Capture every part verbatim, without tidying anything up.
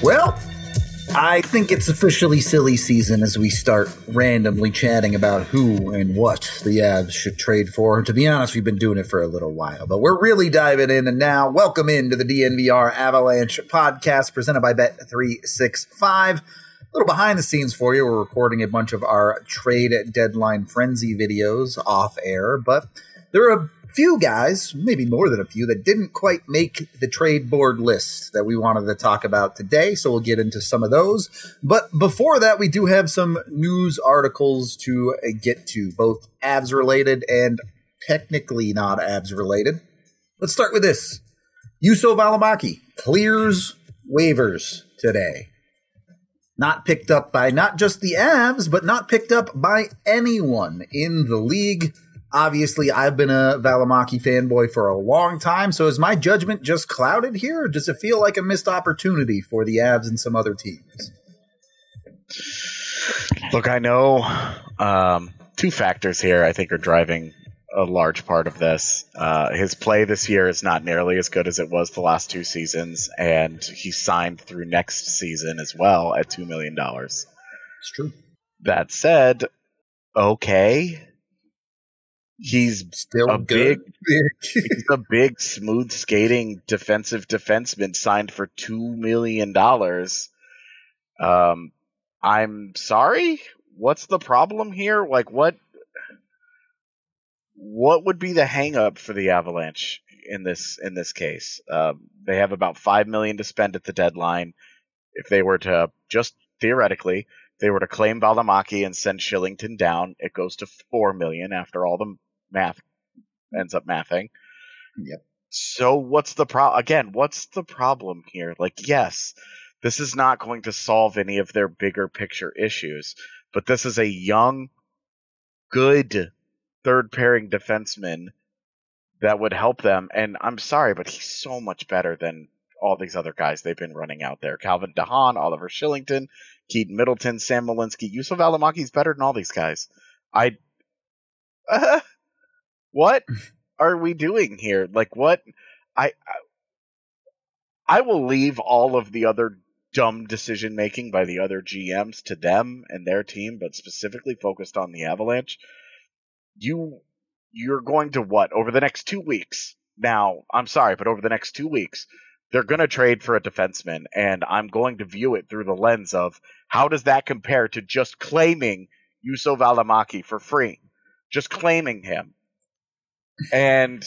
Well, I think it's officially silly season as we start randomly chatting about who and what the Avs should trade for. To be honest, we've been doing it for a little while, but we're really diving in. And now, welcome into the D N V R Avalanche podcast presented by Bet three sixty-five. A little behind the scenes for you. We're recording a bunch of our trade deadline frenzy videos off air, but there are a few guys, maybe more than a few, that didn't quite make the trade board list that we wanted to talk about today, so we'll get into some of those. But before that, we do have some news articles to get to, both Avs related and technically not Avs related. Let's start with this. Juuso Valimaki clears waivers today. Not picked up by not just the Avs, but not picked up by anyone in the league. Obviously, I've been a Valimaki fanboy for a long time, so is my judgment just clouded here, or does it feel like a missed opportunity for the Avs and some other teams? Look, I know um, two factors here I think are driving a large part of this. Uh, his play this year is not nearly as good as it was the last two seasons, and he signed through next season as well at two million dollars. It's true. That said, okay. He's still a good. big, he's a big, smooth skating defensive defenseman signed for two million dollars. Um, I'm sorry. What's the problem here? Like, what? What would be the hang up for the Avalanche in this in this case? Um, they have about five million to spend at the deadline. If they were to just theoretically, if they were to claim Valimaki and send Shillington down, it goes to four million after all the math ends up mathing. Yep. So what's the pro? Again, what's the problem here? Like, yes, this is not going to solve any of their bigger picture issues, but this is a young, good third pairing defenseman that would help them. And I'm sorry, but he's so much better than all these other guys they've been running out there. Calvin DeHaan, Oliver Shillington, Keaton Middleton, Sam Malinsky. Juuso Valimaki's better than all these guys. I, uh, what are we doing here? Like, what? I, I, I will leave all of the other dumb decision making by the other G Ms to them and their team, but specifically focused on the Avalanche. You, you're going to what over the next two weeks? Now, I'm sorry, but over the next two weeks. They're going to trade for a defenseman, and I'm going to view it through the lens of how does that compare to just claiming Juuso Valimaki for free? Just claiming him. And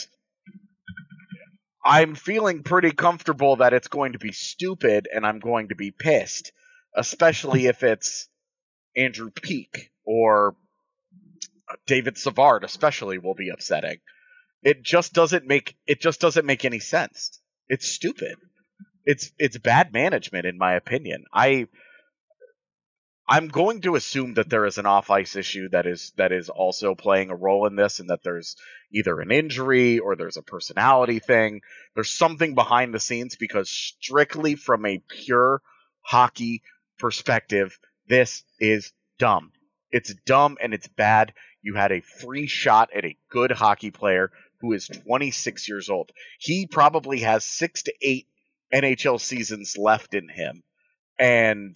I'm feeling pretty comfortable that it's going to be stupid, and I'm going to be pissed, especially if it's Andrew Peeke or David Savard, especially will be upsetting. It just doesn't make it just doesn't make any sense. It's stupid. It's it's bad management, in my opinion. I I'm going to assume that there is an off-ice issue that is that is also playing a role in this, and that there's either an injury or there's a personality thing. There's something behind the scenes, because strictly from a pure hockey perspective, this is dumb. It's dumb and it's bad. You had a free shot at a good hockey player who is twenty-six years old. He probably has six to eight N H L seasons left in him. And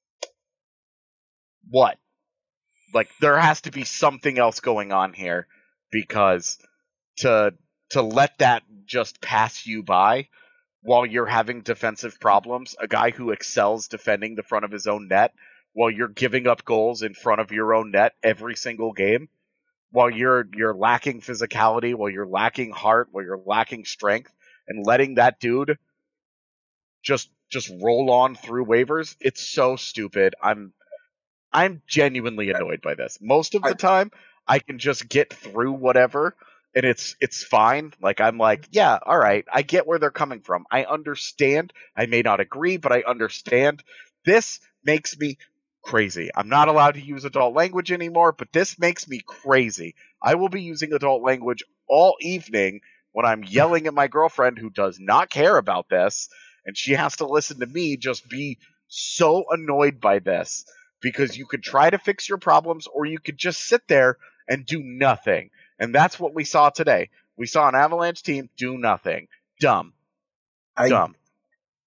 what? Like, there has to be something else going on here, because to to let that just pass you by while you're having defensive problems, a guy who excels defending the front of his own net while you're giving up goals in front of your own net every single game, while you're you're lacking physicality, while you're lacking heart, while you're lacking strength, and letting that dude just just roll on through waivers, it's so stupid. I'm I'm genuinely annoyed by this. Most of the time, I can just get through whatever, and it's it's fine. Like, I'm like, yeah, all right, I get where they're coming from. I understand. I may not agree, but I understand. This makes me crazy. I'm not allowed to use adult language anymore, but this makes me crazy. I will be using adult language all evening when I'm yelling at my girlfriend, who does not care about this, and she has to listen to me just be so annoyed by this, because you could try to fix your problems, or you could just sit there and do nothing. And that's what we saw today. We saw an Avalanche team do nothing. Dumb. I, Dumb.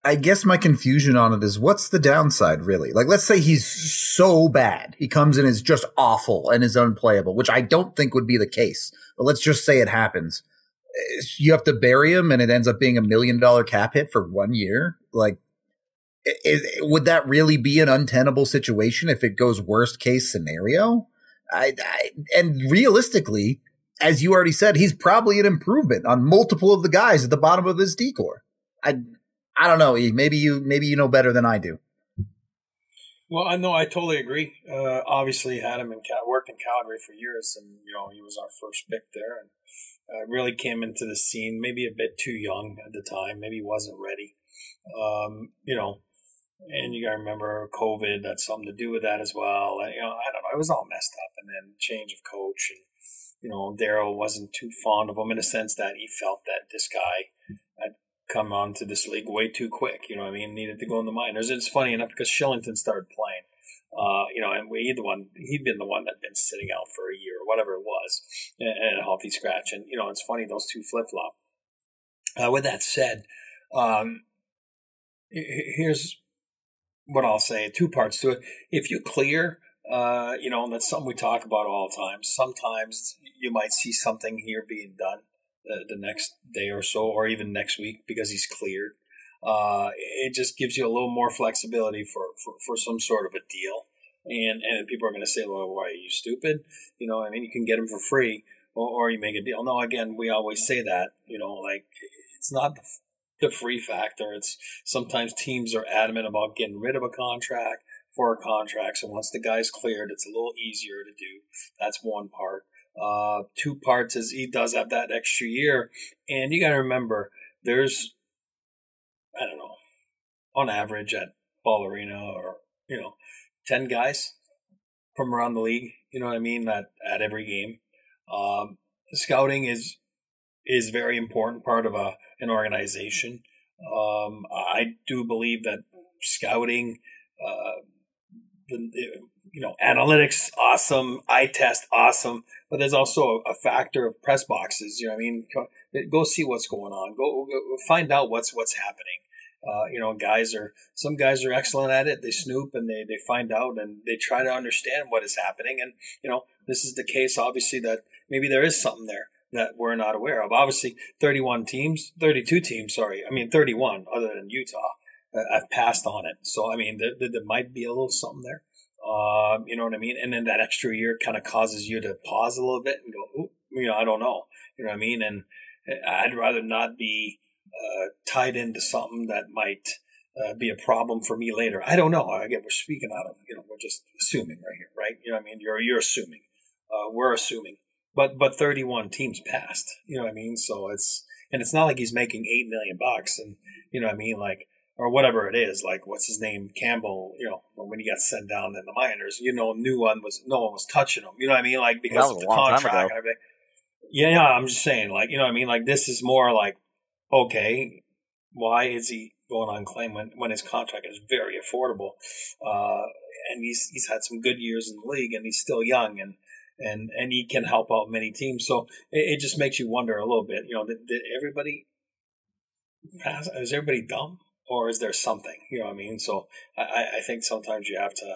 I guess my confusion on it is what's the downside really? Like, let's say he's so bad. He comes in as just awful and is unplayable, which I don't think would be the case. But let's just say it happens. You have to bury him and it ends up being a million dollar cap hit for one year. Like, is, would that really be an untenable situation if it goes worst case scenario? I, I, and realistically, as you already said, he's probably an improvement on multiple of the guys at the bottom of his decor. I, I don't know. Maybe you, maybe you know better than I do. Well, I know I totally agree. Uh, obviously, had him in Cal- worked in Calgary for years, and you know he was our first pick there, and uh, really came into the scene maybe a bit too young at the time. Maybe he wasn't ready. Um, you know, and you got to remember COVID had something to do with that as well. And, you know, I don't know. It was all messed up, and then change of coach, and you know, Daryl wasn't too fond of him in a sense that he felt that this guy had come onto this league way too quick. You know what I mean? Needed to go in the minors. It's funny enough because Shillington started playing, uh, you know, and we the one he'd been the one that'd been sitting out for a year or whatever it was, and, and a healthy scratch. And you know, it's funny those two flip flop. Uh, with that said, um, here's what I'll say: two parts to it. If you clear, uh, you know, and that's something we talk about all the time. Sometimes you might see something here being done The, the next day or so, or even next week, because he's cleared. Uh, it just gives you a little more flexibility for, for, for some sort of a deal. And and people are going to say, well, why are you stupid? You know, I mean, you can get him for free, or, or you make a deal. No, again, we always say that, you know, like it's not the, the free factor. It's sometimes teams are adamant about getting rid of a contract for a contract. So once the guy's cleared, it's a little easier to do. That's one part. Uh, two parts is he does have that extra year. And you got to remember, there's, I don't know, on average at Ball Arena or, you know, ten guys from around the league, you know what I mean, at, at every game. Um, scouting is is very important part of a an organization. Um, I do believe that scouting, uh, the, you know, analytics, awesome, eye test, awesome, but there's also a, a factor of press boxes. You know what I mean? Go, go see what's going on. Go, go find out what's what's happening. Uh, you know, guys are some guys are excellent at it. They snoop and they, they find out and they try to understand what is happening. And you know, this is the case. Obviously, that maybe there is something there that we're not aware of. Obviously, thirty-one teams, thirty-two teams. Sorry, I mean thirty-one, other than Utah, uh, have passed on it. So I mean, there, there might be a little something there. Um, you know what I mean? And then that extra year kind of causes you to pause a little bit and go, ooh, you know, I don't know. You know what I mean? And I'd rather not be uh, tied into something that might uh, be a problem for me later. I don't know. Again, we're speaking out of, you know, we're just assuming right here, right? You know what I mean? You're you're assuming. Uh, we're assuming. But but thirty-one teams passed. You know what I mean? So it's and it's not like he's making eight million bucks, and you know what I mean, like. Or whatever it is, like what's his name, Campbell. You know, when he got sent down in the minors, you know, new one was no one was touching him. You know what I mean? Like because of the contract and everything. Yeah, yeah. I'm just saying, like you know what I mean? Like this is more like, okay, why is he going on claim when, when his contract is very affordable? Uh, and he's he's had some good years in the league, and he's still young, and and and he can help out many teams. So it, it just makes you wonder a little bit. You know, did, did everybody pass? Is everybody dumb? Or is there something, you know what I mean? So I, I think sometimes you have to,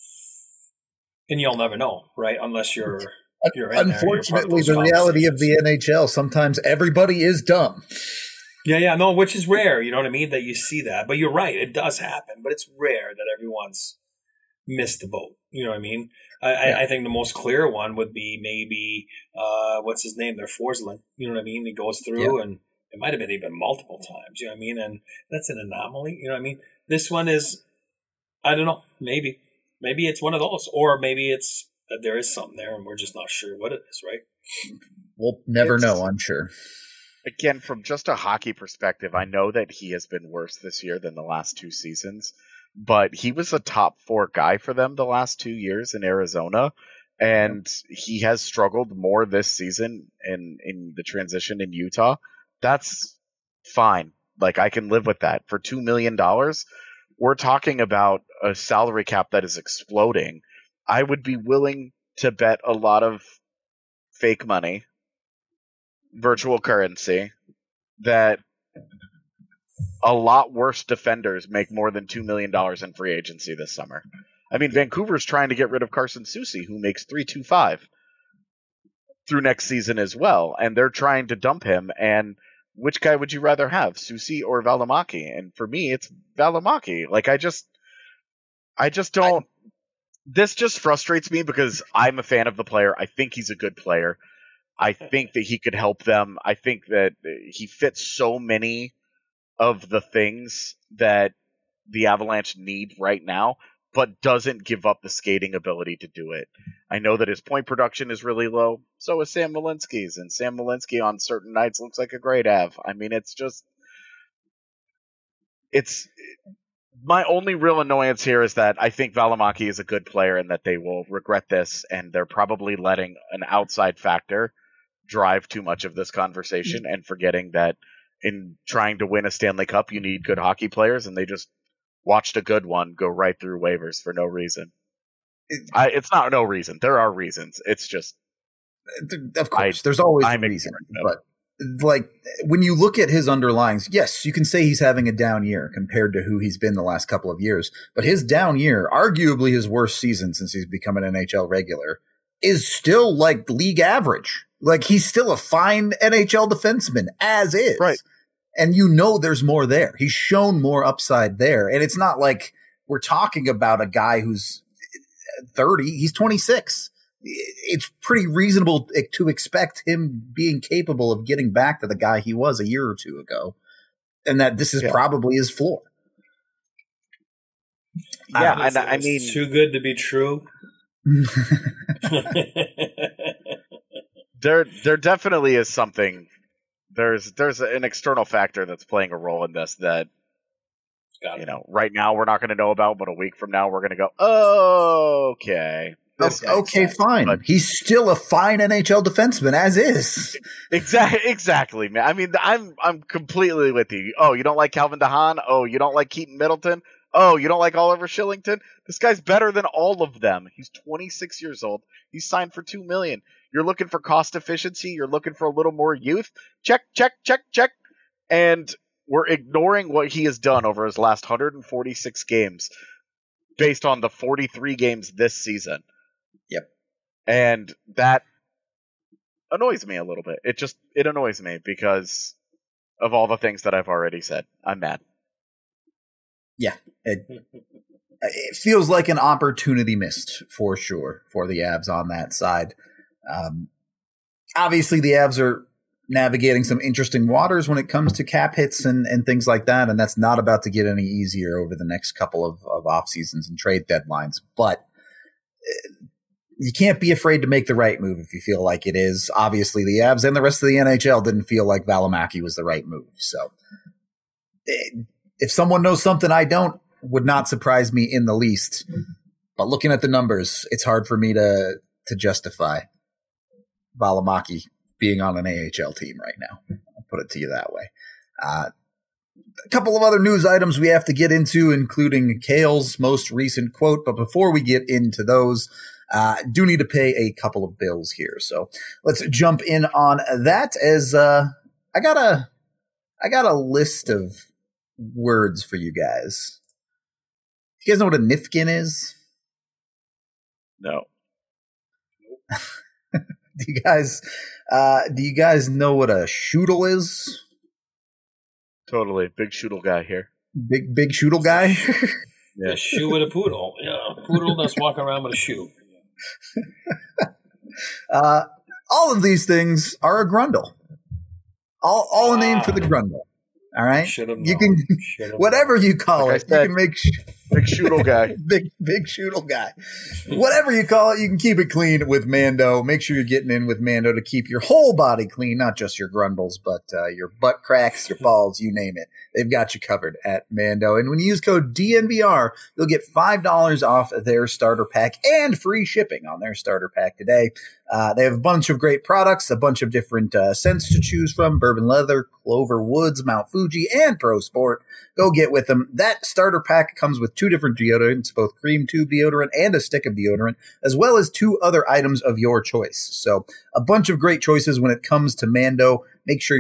and you'll never know, right? Unless you're, you're in Unfortunately, there, the reality of the N H L, sometimes everybody is dumb. Yeah, yeah, no, which is rare, you know what I mean, that you see that. But you're right, it does happen, but it's rare that everyone's missed the boat, you know what I mean? I, yeah. I, I think the most clear one would be maybe, uh, what's his name there, Forsling, you know what I mean? He goes through yeah. and it might have been even multiple times, you know what I mean? And that's an anomaly, you know what I mean? This one is, I don't know, maybe. Maybe it's one of those. Or maybe it's that there is something there and we're just not sure what it is, right? We'll never It's, know, I'm sure. Again, from just a hockey perspective, I know that he has been worse this year than the last two seasons, but he was a top four guy for them the last two years in Arizona. And he has struggled more this season in, in the transition in Utah. That's fine. Like, I can live with that. For two million dollars, we're talking about a salary cap that is exploding. I would be willing to bet a lot of fake money, virtual currency, that a lot worse defenders make more than two million dollars in free agency this summer. I mean, Vancouver's trying to get rid of Carson Soucy, who makes three two five through next season as well, and they're trying to dump him. And which guy would you rather have, Soucy or Valimaki? And for me, it's Valimaki. Like, I just, I just don't. I, this just frustrates me because I'm a fan of the player. I think he's a good player. I think that he could help them. I think that he fits so many of the things that the Avalanche need right now, but doesn't give up the skating ability to do it. I know that his point production is really low. So is Sam Malinsky's, and Sam Malinsky on certain nights looks like a great Av. I mean, it's just, it's my only real annoyance here is that I think Valimaki is a good player and that they will regret this, and they're probably letting an outside factor drive too much of this conversation and forgetting that in trying to win a Stanley Cup, you need good hockey players, and they just watched a good one go right through waivers for no reason. It, I, it's not no reason. There are reasons. It's just, of course, I, there's always I'm a reason. But like when you look at his underlyings, yes, you can say he's having a down year compared to who he's been the last couple of years. But his down year, arguably his worst season since he's become an N H L regular, is still like league average. Like he's still a fine N H L defenseman as is. Right. And you know there's more there. He's shown more upside there. And it's not like we're talking about a guy who's thirty. He's twenty-six. It's pretty reasonable to expect him being capable of getting back to the guy he was a year or two ago. And that this is yeah. probably his floor. Yeah, I, and I mean... Too good to be true. there, there definitely is something... There's there's an external factor that's playing a role in this that, you know, right now we're not going to know about, but a week from now we're going to go, oh, okay. Okay, okay fine. But he's still a fine N H L defenseman, as is. Exactly, exactly, man. I mean, I'm I'm completely with you. Oh, you don't like Calvin DeHaan? Oh, you don't like Keaton Middleton? Oh, you don't like Oliver Shillington? This guy's better than all of them. He's twenty-six years old. He's signed for two million dollars. You're looking for cost efficiency. You're looking for a little more youth. Check, check, check, check. And we're ignoring what he has done over his last one hundred forty-six games based on the forty-three games this season. Yep. And that annoys me a little bit. It just, it annoys me because of all the things that I've already said. I'm mad. Yeah. It, it feels like an opportunity missed for sure for the Avs on that side. Um, obviously, the Avs are navigating some interesting waters when it comes to cap hits and, and things like that, and that's not about to get any easier over the next couple of, of off seasons and trade deadlines. But uh, you can't be afraid to make the right move if you feel like it is. Obviously, the Avs and the rest of the N H L didn't feel like Valimaki was the right move. So, it, if someone knows something I don't, would not surprise me in the least. But looking at the numbers, it's hard for me to to justify Valimaki being on an A H L team right now. I'll put it to you that way. Uh, a couple of other news items we have to get into, including Cale's most recent quote. But before we get into those, uh, do need to pay a couple of bills here. So let's jump in on that. As uh, I got a, I got a list of words for you guys. You guys know what a Nifkin is? No. Do you guys uh, do you guys know what a shoodle is? Totally. Big shoodle guy here. Big big shoodle guy? Yeah. A shoe with a poodle. Yeah, a poodle that's walking around with a shoe. uh, all of these things are a grundle. All all a name ah. for the grundle. All right? Should've you known. can Should've whatever known. you call like it, you can make sh- big shoodle guy. big big shoodle guy. Whatever you call it, you can keep it clean with Mando. Make sure you're getting in with Mando to keep your whole body clean, not just your grundles, but uh, your butt cracks, your balls, you name it. They've got you covered at Mando. And when you use code D N V R, you'll get five dollars off their starter pack and free shipping on their starter pack today. Uh, they have a bunch of great products, a bunch of different uh, scents to choose from: Bourbon Leather, Clover Woods, Mount Fuji, and Pro Sport. Go get with them. That starter pack comes with two different deodorants, both cream tube deodorant and a stick of deodorant, as well as two other items of your choice. So a bunch of great choices when it comes to Mando. Make sure you're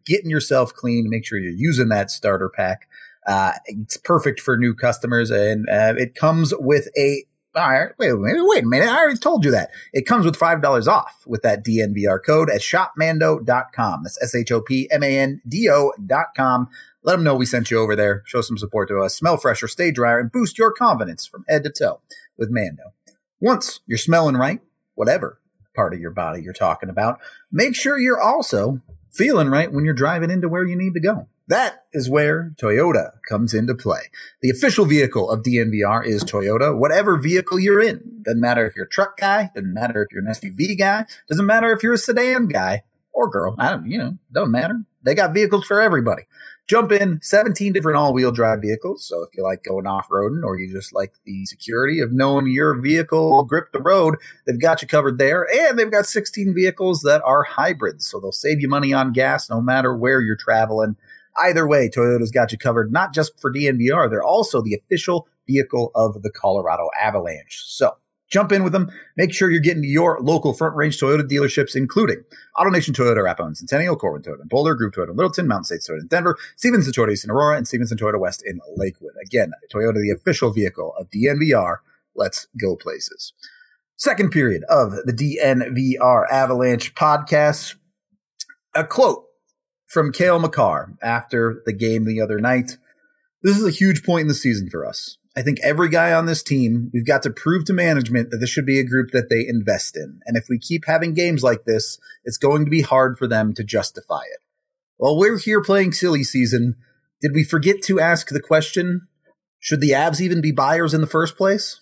getting yourself clean. Make sure you're using that starter pack. Uh, it's perfect for new customers, and uh, it comes with a all right, wait, wait, wait a minute. I already told you that. It comes with five dollars off with that D N V R code at shop mando dot com. That's S H O P M A N D O dot com. Let them know we sent you over there. Show some support to us. Smell fresher, stay drier, and boost your confidence from head to toe with Mando. Once you're smelling right, whatever part of your body you're talking about, make sure you're also feeling right when you're driving into where you need to go. That is where Toyota comes into play. The official vehicle of D N V R is Toyota, whatever vehicle you're in. Doesn't matter if you're a truck guy, doesn't matter if you're an S U V guy, doesn't matter if you're a sedan guy or girl. I don't, you know, doesn't matter. They got vehicles for everybody. Jump in, seventeen different all-wheel drive vehicles. So if you like going off-roading or you just like the security of knowing your vehicle will grip the road, they've got you covered there. And they've got sixteen vehicles that are hybrids. So they'll save you money on gas no matter where you're traveling. Either way, Toyota's got you covered, not just for D N V R. They're also the official vehicle of the Colorado Avalanche. So jump in with them. Make sure you're getting to your local Front Range Toyota dealerships, including AutoNation Toyota, Arapahoe, Centennial, Corwin Toyota, Boulder, Group Toyota, Littleton, Mountain States Toyota in Denver, Stevenson Toyota East in Aurora, and Stevenson Toyota West in Lakewood. Again, Toyota, the official vehicle of D N V R. Let's go places. Second period of the D N V R Avalanche podcast. A quote from Cale Makar after the game the other night. This is a huge point in the season for us. I think every guy on this team, we've got to prove to management that this should be a group that they invest in. And if we keep having games like this, it's going to be hard for them to justify it. While we're here playing silly season, did we forget to ask the question, should the Avs even be buyers in the first place?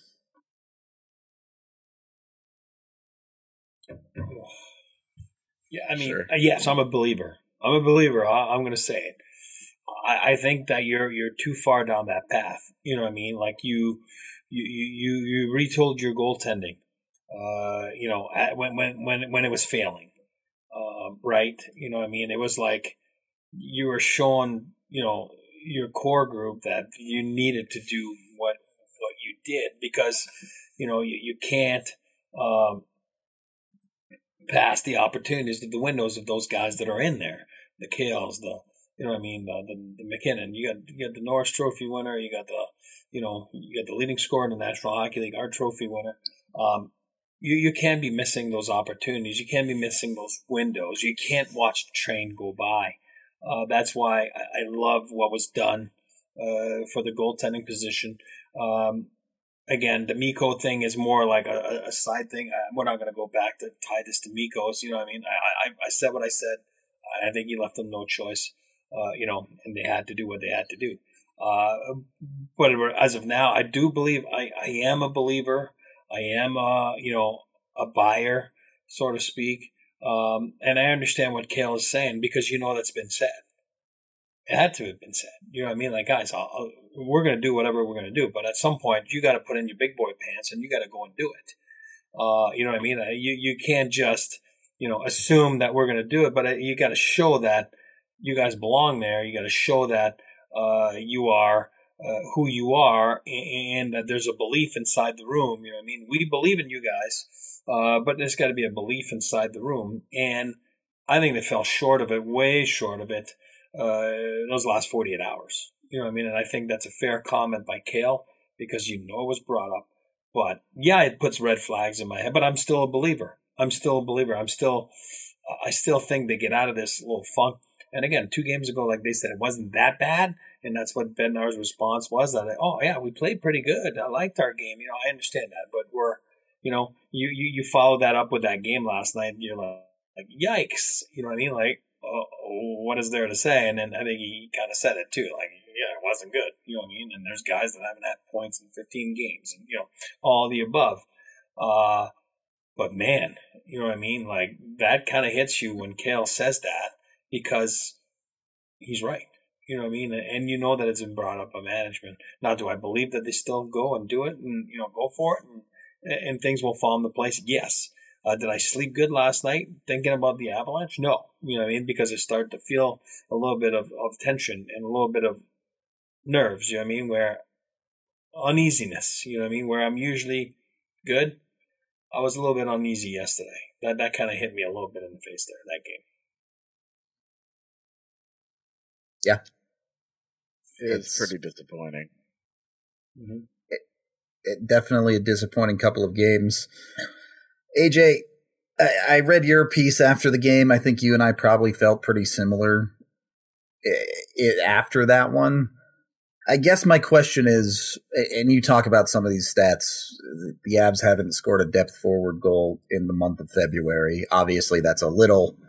Yeah, I mean, Sure. uh, yes, I'm a believer. I'm a believer. I, I'm going to say it. I, I think that you're you're too far down that path. You know what I mean? Like you you you you retold your goaltending. Uh, you know, at, when when when when it was failing, uh, right? You know what I mean? It was like you were showing, you know, your core group that you needed to do what what you did because you know you you can't. Um, past the opportunities of the windows of those guys that are in there, the Kales, the you know what I mean, the, the, the McKinnon. You got you got the Norris Trophy winner. You got the you know you got the leading scorer in the National Hockey League, our trophy winner. Um, you you can be missing those opportunities. You can be missing those windows. You can't watch the train go by. Uh, that's why I, I love what was done uh, for the goaltending position. Um, Again, the Mikko thing is more like a, a side thing. I, we're not going to go back to tie this to Mikko's. You know what I mean? I, I, I said what I said. I think he left them no choice, uh, you know, and they had to do what they had to do. Uh, but as of now, I do believe I, I am a believer. I am, a, you know, a buyer, so to speak. Um, and I understand what Cale is saying because you know that's been said. It had to have been said. You know what I mean? Like, guys, I'll, I'll, we're going to do whatever we're going to do. But at some point, you got to put in your big boy pants and you got to go and do it. Uh, you know what I mean? You you can't just, you know, assume that we're going to do it. But you got to show that you guys belong there. You got to show that uh, you are uh, who you are and that there's a belief inside the room. You know what I mean? We believe in you guys, uh, but there's got to be a belief inside the room. And I think they fell short of it, way short of it. Uh, those last forty-eight hours. You know what I mean? And I think that's a fair comment by Cale because you know it was brought up. But yeah, it puts red flags in my head, but I'm still a believer. I'm still a believer. I'm still, I still think they get out of this little funk. And again, two games ago, like they said, it wasn't that bad. And that's what Bednar's response was that, oh yeah, we played pretty good. I liked our game. You know, I understand that, but we're, you know, you, you, you follow that up with that game last night. You're like, like, yikes. You know what I mean? Like, Uh, what is there to say? And then I think he kind of said it too. Like, yeah, it wasn't good. You know what I mean? And there's guys that haven't had points in fifteen games and, you know, all the above. Uh, but man, you know what I mean? Like, that kind of hits you when Cale says that because he's right. You know what I mean? And you know that it's been brought up by management. Now, do I believe that they still go and do it and, you know, go for it and, and things will fall into place? Yes. Uh, did I sleep good last night thinking about the Avalanche? No. You know what I mean? Because I started to feel a little bit of, of tension and a little bit of nerves, you know what I mean? Where uneasiness, you know what I mean? Where I'm usually good. I was a little bit uneasy yesterday. That that kind of hit me a little bit in the face there, that game. Yeah. It's, it's pretty disappointing. Mm-hmm. It, it, definitely a disappointing couple of games. A J, I, I read your piece after the game. I think you and I probably felt pretty similar it, it, after that one. I guess my question is, and you talk about some of these stats, the Avs haven't scored a depth forward goal in the month of February. Obviously, that's a little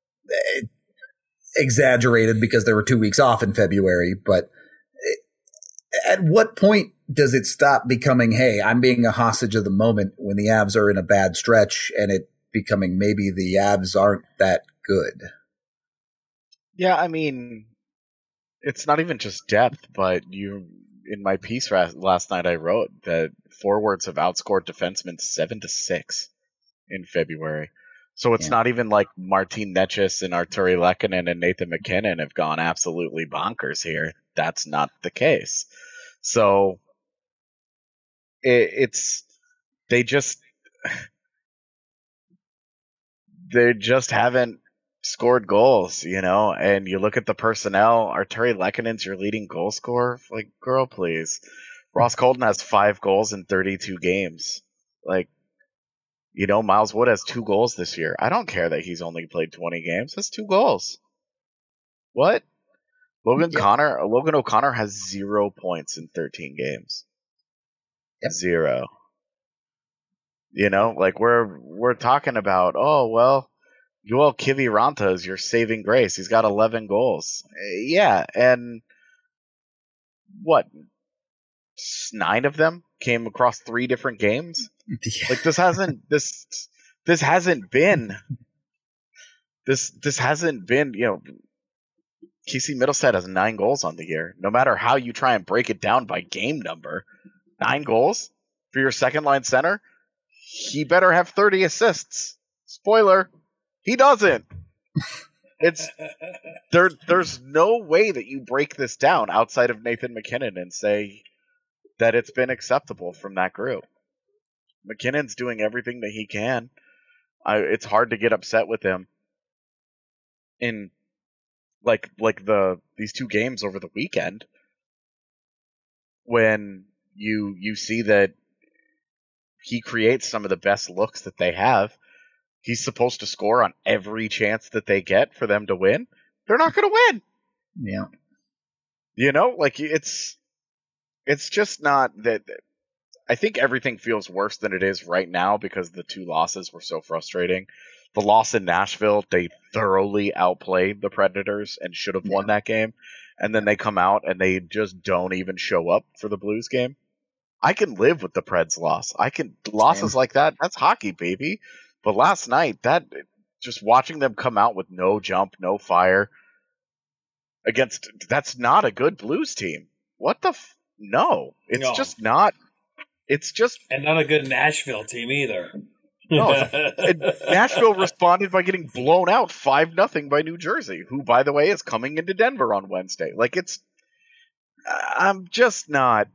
exaggerated because there were two weeks off in February. But at what point does it stop becoming, hey, I'm being a hostage of the moment when the Avs are in a bad stretch, and it becoming maybe the Avs aren't that good? Yeah, I mean, it's not even just depth, but you, in my piece last night, I wrote that forwards have outscored defensemen seven to six in February. So it's yeah. not even like Martin Necas and Arturi Lehkonen and Nathan MacKinnon have gone absolutely bonkers here. That's not the case. So it, it's they just they just haven't scored goals, you know, and you look at the personnel. Arturi Lehkonen's your leading goal scorer. Like, girl, please. Ross Colton has five goals in thirty-two games. Like, you know, Miles Wood has two goals this year. I don't care that he's only played twenty games. That's two goals. What? Logan yep. Connor, Logan O'Connor has zero points in thirteen games. Yep. Zero. You know, like we're we're talking about, oh, well, Joel Kiviranta is your saving grace. He's got eleven goals. Yeah, and what? Nine of them came across three different games? Yeah. Like this hasn't this this hasn't been this this hasn't been, you know, Casey Middlestat has nine goals on the year. No matter how you try and break it down by game number, nine goals for your second line center, he better have thirty assists. Spoiler, he doesn't. It's there. There's no way that you break this down outside of Nathan MacKinnon and say that it's been acceptable from that group. McKinnon's doing everything that he can. I, it's hard to get upset with him in like like the these two games over the weekend when you you see that he creates some of the best looks that they have. He's supposed to score on every chance that they get for them to win. They're not going to win. Yeah. You know, like it's it's just not that. I think everything feels worse than it is right now because the two losses were so frustrating. The loss in Nashville, they thoroughly outplayed the Predators and should have won yeah. that game. And then they come out and they just don't even show up for the Blues game. I can live with the Preds loss. I can losses Damn. like that. That's hockey, baby. But last night, that just watching them come out with no jump, no fire against that's not a good Blues team. What the f- no? It's no. just not. It's just and not a good Nashville team either. No, Nashville responded by getting blown out five nothing by New Jersey, who, by the way, is coming into Denver on Wednesday. Like it's, I'm just not.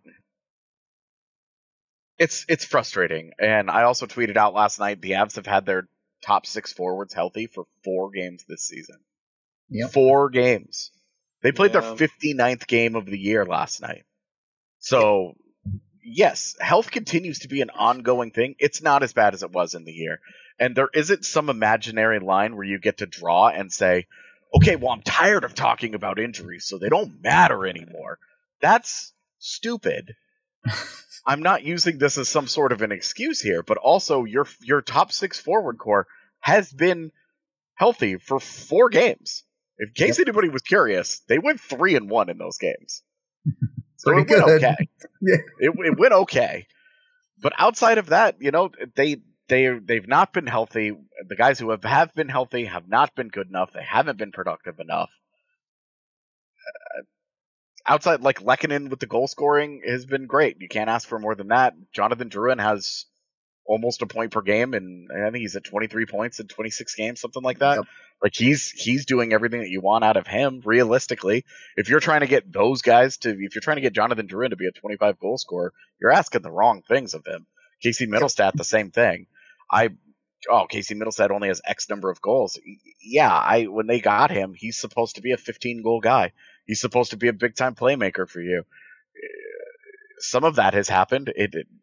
It's it's frustrating, and I also tweeted out last night the Avs have had their top six forwards healthy for four games this season. Yep. Four games. They played yeah. their fifty-ninth game of the year last night. So. Yes, health continues to be an ongoing thing. It's not as bad as it was in the year. And there isn't some imaginary line where you get to draw and say, okay, well, I'm tired of talking about injuries, so they don't matter anymore. That's stupid. I'm not using this as some sort of an excuse here, but also your your top six forward core has been healthy for four games. In case yep. anybody was curious, they went three and one in those games. So it went good. okay. Yeah. It, it went okay. But outside of that, you know, they they they've not been healthy. The guys who have, have been healthy have not been good enough. They haven't been productive enough. Uh, outside, like Lehkonen with the goal scoring has been great. You can't ask for more than that. Jonathan Drouin has almost a point per game, and I think he's at twenty-three points in twenty-six games, something like that. Yep. Like he's he's doing everything that you want out of him. Realistically, if you're trying to get those guys to, if you're trying to get Jonathan Drouin to be a twenty-five goal scorer, you're asking the wrong things of him. Casey Middlestat, the same thing. I oh Casey Middlestat only has X number of goals. Yeah, I when they got him, he's supposed to be a fifteen goal guy. He's supposed to be a big time playmaker for you. Some of that has happened. It, it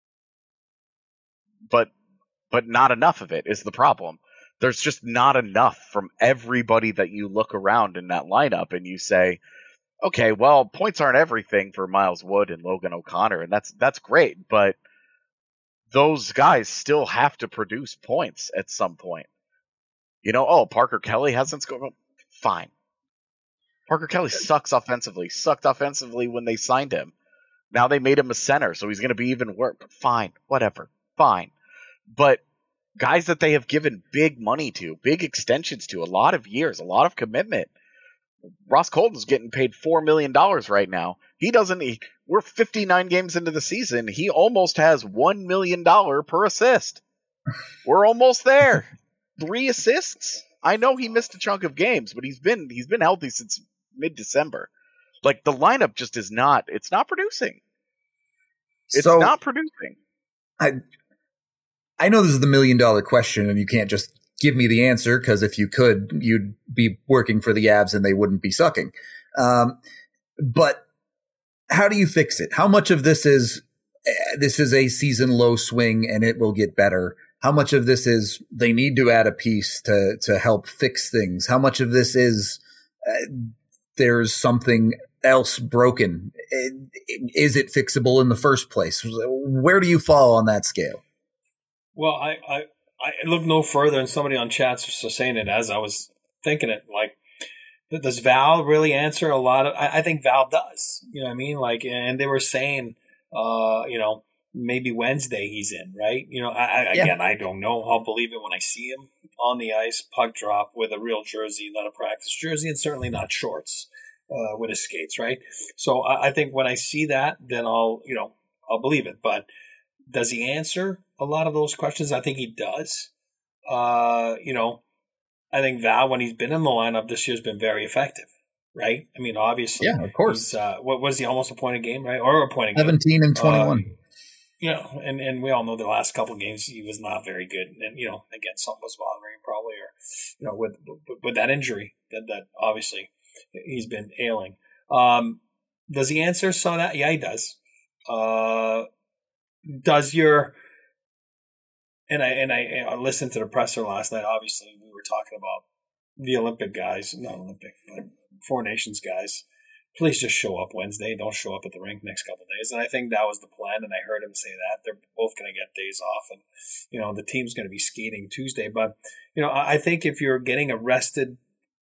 but but not enough of it is the problem. There's just not enough from everybody that you look around in that lineup and you say, okay, well, points aren't everything for Miles Wood and Logan O'Connor, and that's that's great, but those guys still have to produce points at some point. You know, oh, Parker Kelly hasn't scored. Fine. Parker Kelly sucks offensively. Sucked offensively when they signed him. Now they made him a center, so he's going to be even worse. Fine. Whatever. Fine. But guys that they have given big money to, big extensions to, a lot of years, a lot of commitment. Ross Colton's getting paid four million dollars right now. He doesn't. He, we're fifty-nine games into the season. He almost has one million dollars per assist. We're almost there. Three assists. I know he missed a chunk of games, but he's been he's been healthy since mid-December. Like, the lineup just is not. It's not producing. It's so, not producing. I I know this is the million dollar question, and you can't just give me the answer, because if you could, you'd be working for the Avs and they wouldn't be sucking. Um, but how do you fix it? How much of this is this is a season low swing and it will get better? How much of this is they need to add a piece to to help fix things? How much of this is uh, there's something else broken? Is it fixable in the first place? Where do you fall on that scale? Well, I, I, I look no further, and somebody on chat's just saying it as I was thinking it. Like, does Val really answer a lot of? I, I think Val does. You know what I mean? Like, and they were saying, uh, you know, maybe Wednesday he's in, right? You know, I, I yeah. again, I don't know. I'll believe it when I see him on the ice, puck drop with a real jersey, not a practice jersey, and certainly not shorts uh, with his skates, right? So I, I think when I see that, then I'll, you know, I'll believe it. But does he answer a lot of those questions? I think he does. Uh, you know, I think Val, when he's been in the lineup this year, has been very effective, right? I mean, obviously. Yeah, of course. Uh, what was he, almost a point a game, right? Or a point a game. seventeen and twenty-one. Uh, you know, and, and we all know the last couple of games he was not very good. And, you know, again, something was bothering him probably, or, you know, with with that injury that, that obviously he's been ailing. Um, does he answer some of that? Yeah, he does. Uh, does your... And I and I, I listened to the presser last night. Obviously, we were talking about the Olympic guys, not Olympic, but Four Nations guys. Please just show up Wednesday. Don't show up at the rink next couple of days. And I think that was the plan. And I heard him say that they're both going to get days off, and you know the team's going to be skating Tuesday. But you know, I think if you're getting a rested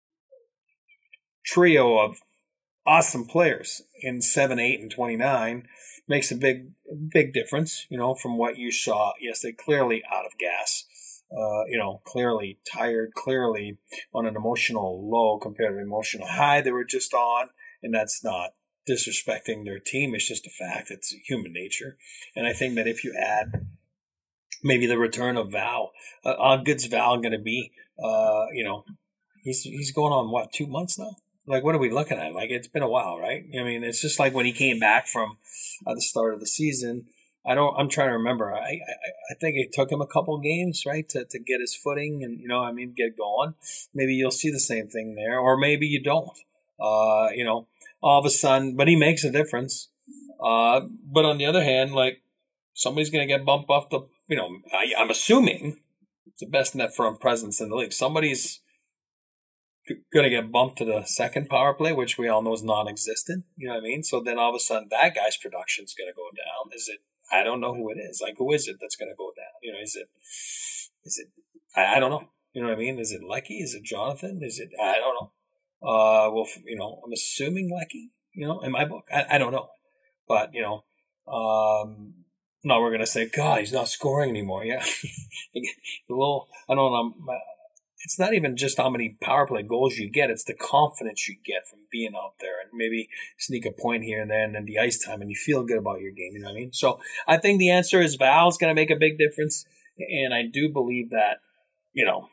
trio of awesome players in seven, eight, and twenty-nine, makes a big, big difference, you know, from what you saw. Yes, they clearly out of gas, uh, you know, clearly tired, clearly on an emotional low compared to an emotional high they were just on. And that's not disrespecting their team. It's just a fact. It's human nature. And I think that if you add maybe the return of Val, uh, how good's Val going to be? Uh, you know, he's he's going on, what, two months now? Like, what are we looking at? Like, it's been a while, right? I mean, it's just like when he came back from uh, the start of the season. I don't. I'm trying to remember. I, I I think it took him a couple games, right, to to get his footing and you know, I mean, get going. Maybe you'll see the same thing there, or maybe you don't. Uh, you know, all of a sudden, but he makes a difference. Uh, but on the other hand, like somebody's going to get bumped off the. You know, I, I'm assuming it's the best net front presence in the league. Somebody's going to get bumped to the second power play, which we all know is non-existent. You know what I mean? So then all of a sudden that guy's production is going to go down. Is it? I don't know who it is. Like, who is it that's going to go down? You know, is it? Is it? I, I don't know. You know what I mean? Is it Lecky? Is it Jonathan? Is it? I don't know. Uh, well, you know, I'm assuming Lecky. You know, in my book, I, I don't know, but you know, um, no, we're going to say, God, he's not scoring anymore. Yeah, a little. I don't know. It's not even just how many power play goals you get. It's the confidence you get from being out there and maybe sneak a point here and there and then the ice time and you feel good about your game. You know what I mean? So I think the answer is Val's going to make a big difference. And I do believe that, you know,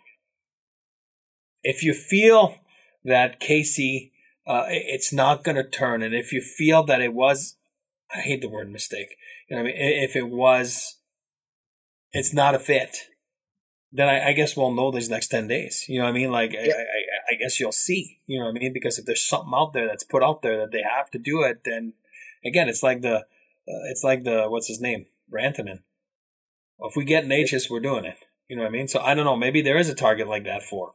if you feel that Casey, uh, it's not going to turn. And if you feel that it was, I hate the word mistake. You know what I mean? If it was, it's not a fit. Then I, I guess we'll know these next ten days. You know what I mean? Like, yeah. I guess you'll see. You know what I mean? Because if there's something out there that's put out there that they have to do it, then again, it's like the uh, it's like the what's his name, Rantanen. Well, if we get Natchez, we're doing it. You know what I mean? So I don't know. Maybe there is a target like that for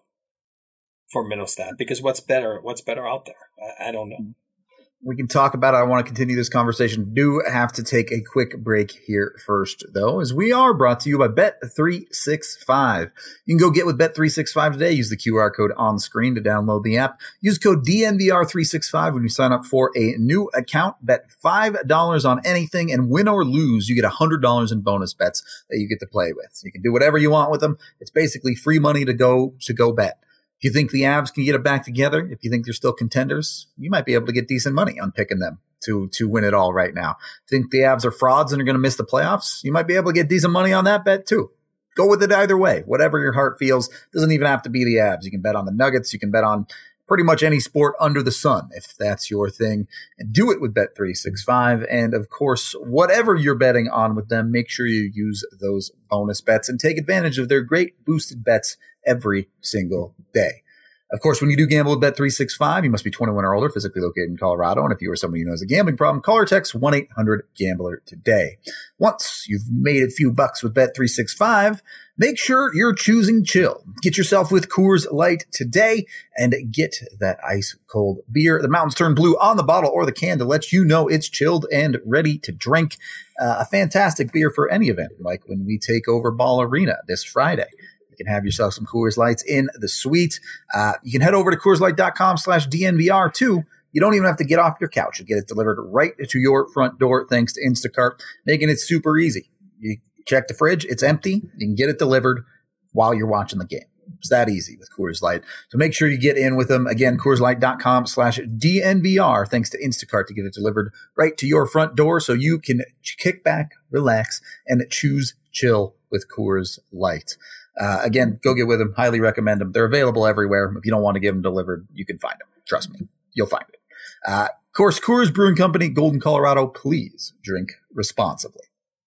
for Mittelstadt, because what's better? What's better out there? I, I don't know. We can talk about it. I want to continue this conversation. Do have to take a quick break here first, though, as we are brought to you by Bet three sixty-five. You can go get with Bet three sixty-five today. Use the Q R code on the screen to download the app. Use code D N V R three sixty-five when you sign up for a new account. Bet five dollars on anything, and win or lose, you get one hundred dollars in bonus bets that you get to play with. You can do whatever you want with them. It's basically free money to go to go bet. If you think the Avs can get it back together, if you think they're still contenders, you might be able to get decent money on picking them to to win it all right now. Think the Avs are frauds and are going to miss the playoffs? You might be able to get decent money on that bet too. Go with it either way. Whatever your heart feels. Doesn't even have to be the Avs. You can bet on the Nuggets. You can bet on pretty much any sport under the sun if that's your thing. And do it with Bet three sixty-five. And of course, whatever you're betting on with them, make sure you use those bonus bets and take advantage of their great boosted bets every single day. Of course, when you do gamble with Bet three sixty-five, you must be twenty-one or older, physically located in Colorado. And if you or someone you know has a gambling problem, call or text one eight hundred gambler today. Once you've made a few bucks with Bet three sixty-five, make sure you're choosing chill. Get yourself with Coors Light today and get that ice cold beer. The mountains turn blue on the bottle or the can to let you know it's chilled and ready to drink. Uh, a fantastic beer for any event, like when we take over Ball Arena this Friday. You can have yourself some Coors Lights in the suite. Uh, you can head over to CoorsLight.com slash DNVR too. You don't even have to get off your couch. You get it delivered right to your front door thanks to Instacart, making it super easy. You check the fridge, it's empty. You can get it delivered while you're watching the game. It's that easy with Coors Light. So make sure you get in with them. Again, CoorsLight.com slash DNVR, thanks to Instacart, to get it delivered right to your front door so you can kick back, relax, and choose chill with Coors Light. Uh, again, go get with them. Highly recommend them. They're available everywhere. If you don't want to get them delivered, you can find them. Trust me, you'll find it. Uh, of course, Coors Brewing Company, Golden, Colorado. Please drink responsibly.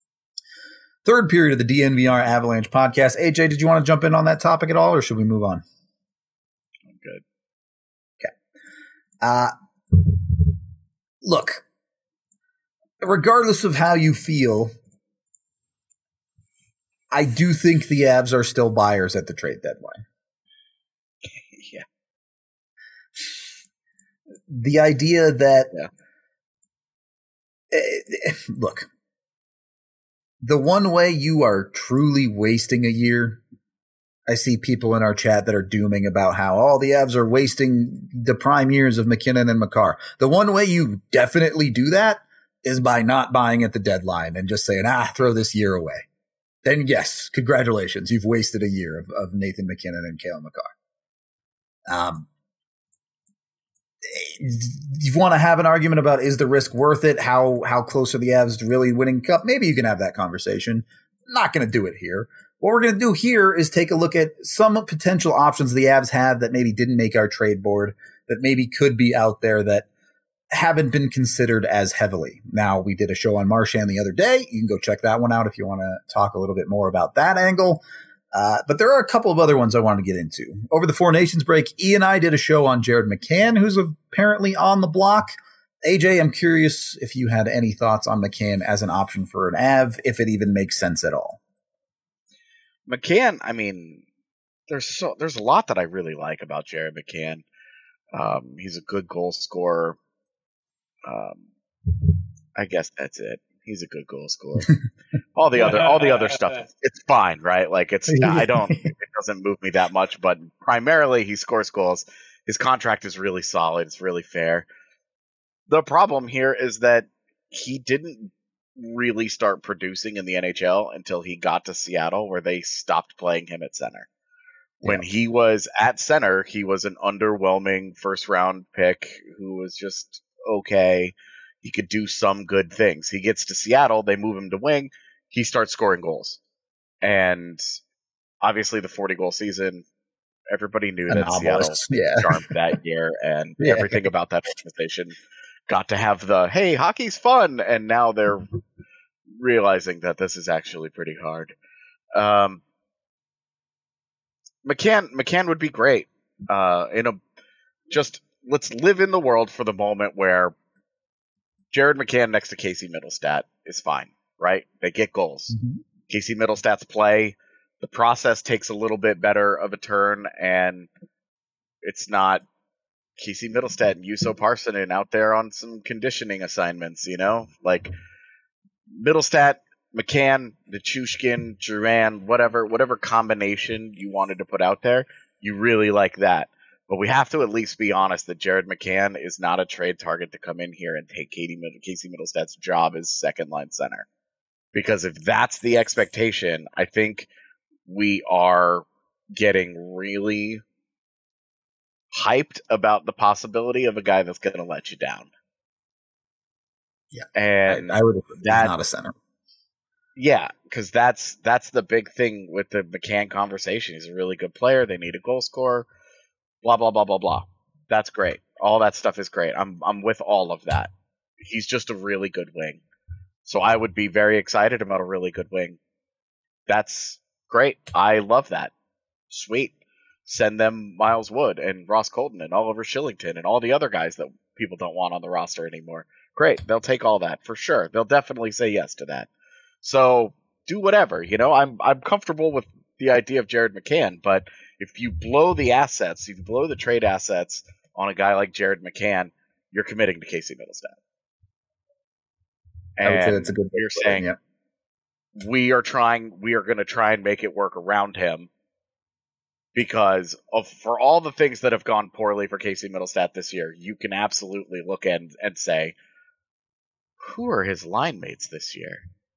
Third period of the D N V R Avalanche podcast. A J, did you want to jump in on that topic at all, or should we move on? I'm good. Okay. Uh, look, regardless of how you feel, I do think the Avs are still buyers at the trade deadline. Yeah. The idea that, yeah. uh, look, the one way you are truly wasting a year, I see people in our chat that are dooming about how all the Avs are wasting the prime years of McKinnon and Makar. The one way you definitely do that is by not buying at the deadline and just saying, ah, throw this year away. Then yes, congratulations. You've wasted a year of, of Nathan McKinnon and Cale Makar. Um, you want to have an argument about, is the risk worth it? How, how close are the Avs to really winning cup? Maybe you can have that conversation. Not going to do it here. What we're going to do here is take a look at some potential options the Avs have that maybe didn't make our trade board, that maybe could be out there that haven't been considered as heavily. Now, we did a show on Marchand the other day. You can go check that one out if you want to talk a little bit more about that angle. Uh, but there are a couple of other ones I want to get into. Over the Four Nations break, E and I did a show on Jared McCann, who's apparently on the block. A J, I'm curious if you had any thoughts on McCann as an option for an Av, if it even makes sense at all. McCann, I mean, there's so there's a lot that I really like about Jared McCann. Um, he's a good goal scorer. Um, I guess that's it. He's a good goal scorer. all the other, all the other stuff, it's fine, right? Like it's, I don't, it doesn't move me that much. But primarily, he scores goals. His contract is really solid. It's really fair. The problem here is that he didn't really start producing in the N H L until he got to Seattle, where they stopped playing him at center. When yeah. he was at center, he was an underwhelming first round pick who was just okay. He could do some good things. He gets to Seattle, they move him to wing, he starts scoring goals. And obviously the forty goal season, everybody knew Anomalous. that Seattle yeah. charmed that year, and yeah. everything about that organization got to have the, hey, hockey's fun, and now they're realizing that this is actually pretty hard. Um, McCann, McCann would be great. Uh, in a just let's live in the world for the moment where Jared McCann next to Casey Middlestat is fine, right? They get goals. Mm-hmm. Casey Middlestat's play, the process takes a little bit better of a turn, and it's not Casey Middlestat and Juuso Parssinen out there on some conditioning assignments, you know? Like, Middlestat, McCann, Nichushkin, Duran, whatever, whatever combination you wanted to put out there, you really like that. But we have to at least be honest that Jared McCann is not a trade target to come in here and take Katie, Casey Middlestat's job as second line center. Because if that's the expectation, I think we are getting really hyped about the possibility of a guy that's going to let you down. Yeah, and I, I would agree. That, He's not a center. Yeah, because that's that's the big thing with the McCann conversation. He's a really good player. They need a goal scorer. Blah blah blah blah blah. That's great. All that stuff is great. I'm I'm with all of that. He's just a really good wing. So I would be very excited about a really good wing. That's great. I love that. Sweet. Send them Miles Wood and Ross Colton and Oliver Shillington and all the other guys that people don't want on the roster anymore. Great. They'll take all that for sure. They'll definitely say yes to that. So do whatever. You know, I'm I'm comfortable with the idea of Jared McCann, but if you blow the assets, if you blow the trade assets on a guy like Jared McCann, you're committing to Casey Middlestat. And I would say that's a good you're saying yeah. we are trying, we are going to try and make it work around him because of for all the things that have gone poorly for Casey Middlestat this year, you can absolutely look at and, and say, who are his line mates this year?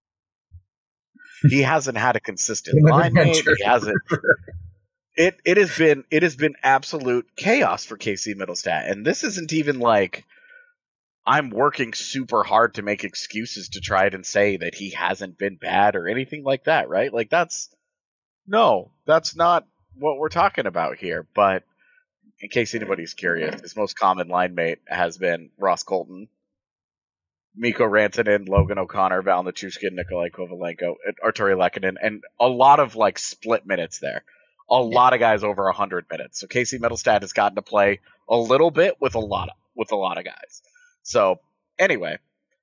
He hasn't had a consistent line mate. He hasn't. It it has been it has been absolute chaos for Casey Middlestat, and this isn't even like I'm working super hard to make excuses to try and say that he hasn't been bad or anything like that, right? Like that's no, that's not what we're talking about here. But in case anybody's curious, his most common line mate has been Ross Colton, Mikko Rantanen, Logan O'Connor, Val Nichushkin, Nikolai Kovalenko, Arturi Lehkonen, and a lot of like split minutes there. A lot of guys over one hundred minutes. So Casey Middlestat has gotten to play a little bit with a lot of, with a lot of guys. So anyway,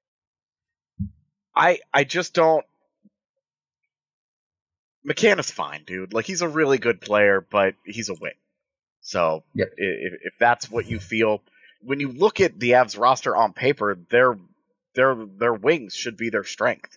I I just don't. McCann is fine, dude. Like he's a really good player, but he's a wing. So yep. if, if that's what you feel, when you look at the Avs roster on paper, their their their wings should be their strength.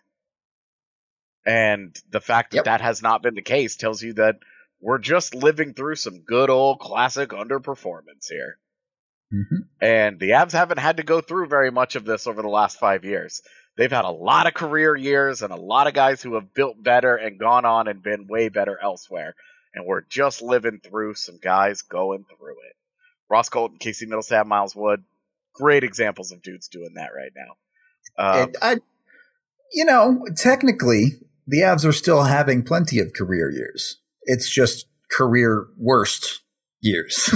And the fact that yep. that has not been the case tells you that we're just living through some good old classic underperformance here. Mm-hmm. And the Avs haven't had to go through very much of this over the last five years. They've had a lot of career years and a lot of guys who have built better and gone on and been way better elsewhere. And we're just living through some guys going through it. Ross Colton, Casey Middlestat, Miles Wood, great examples of dudes doing that right now. Um, it, I, you know, technically, the Avs are still having plenty of career years. It's just career worst years.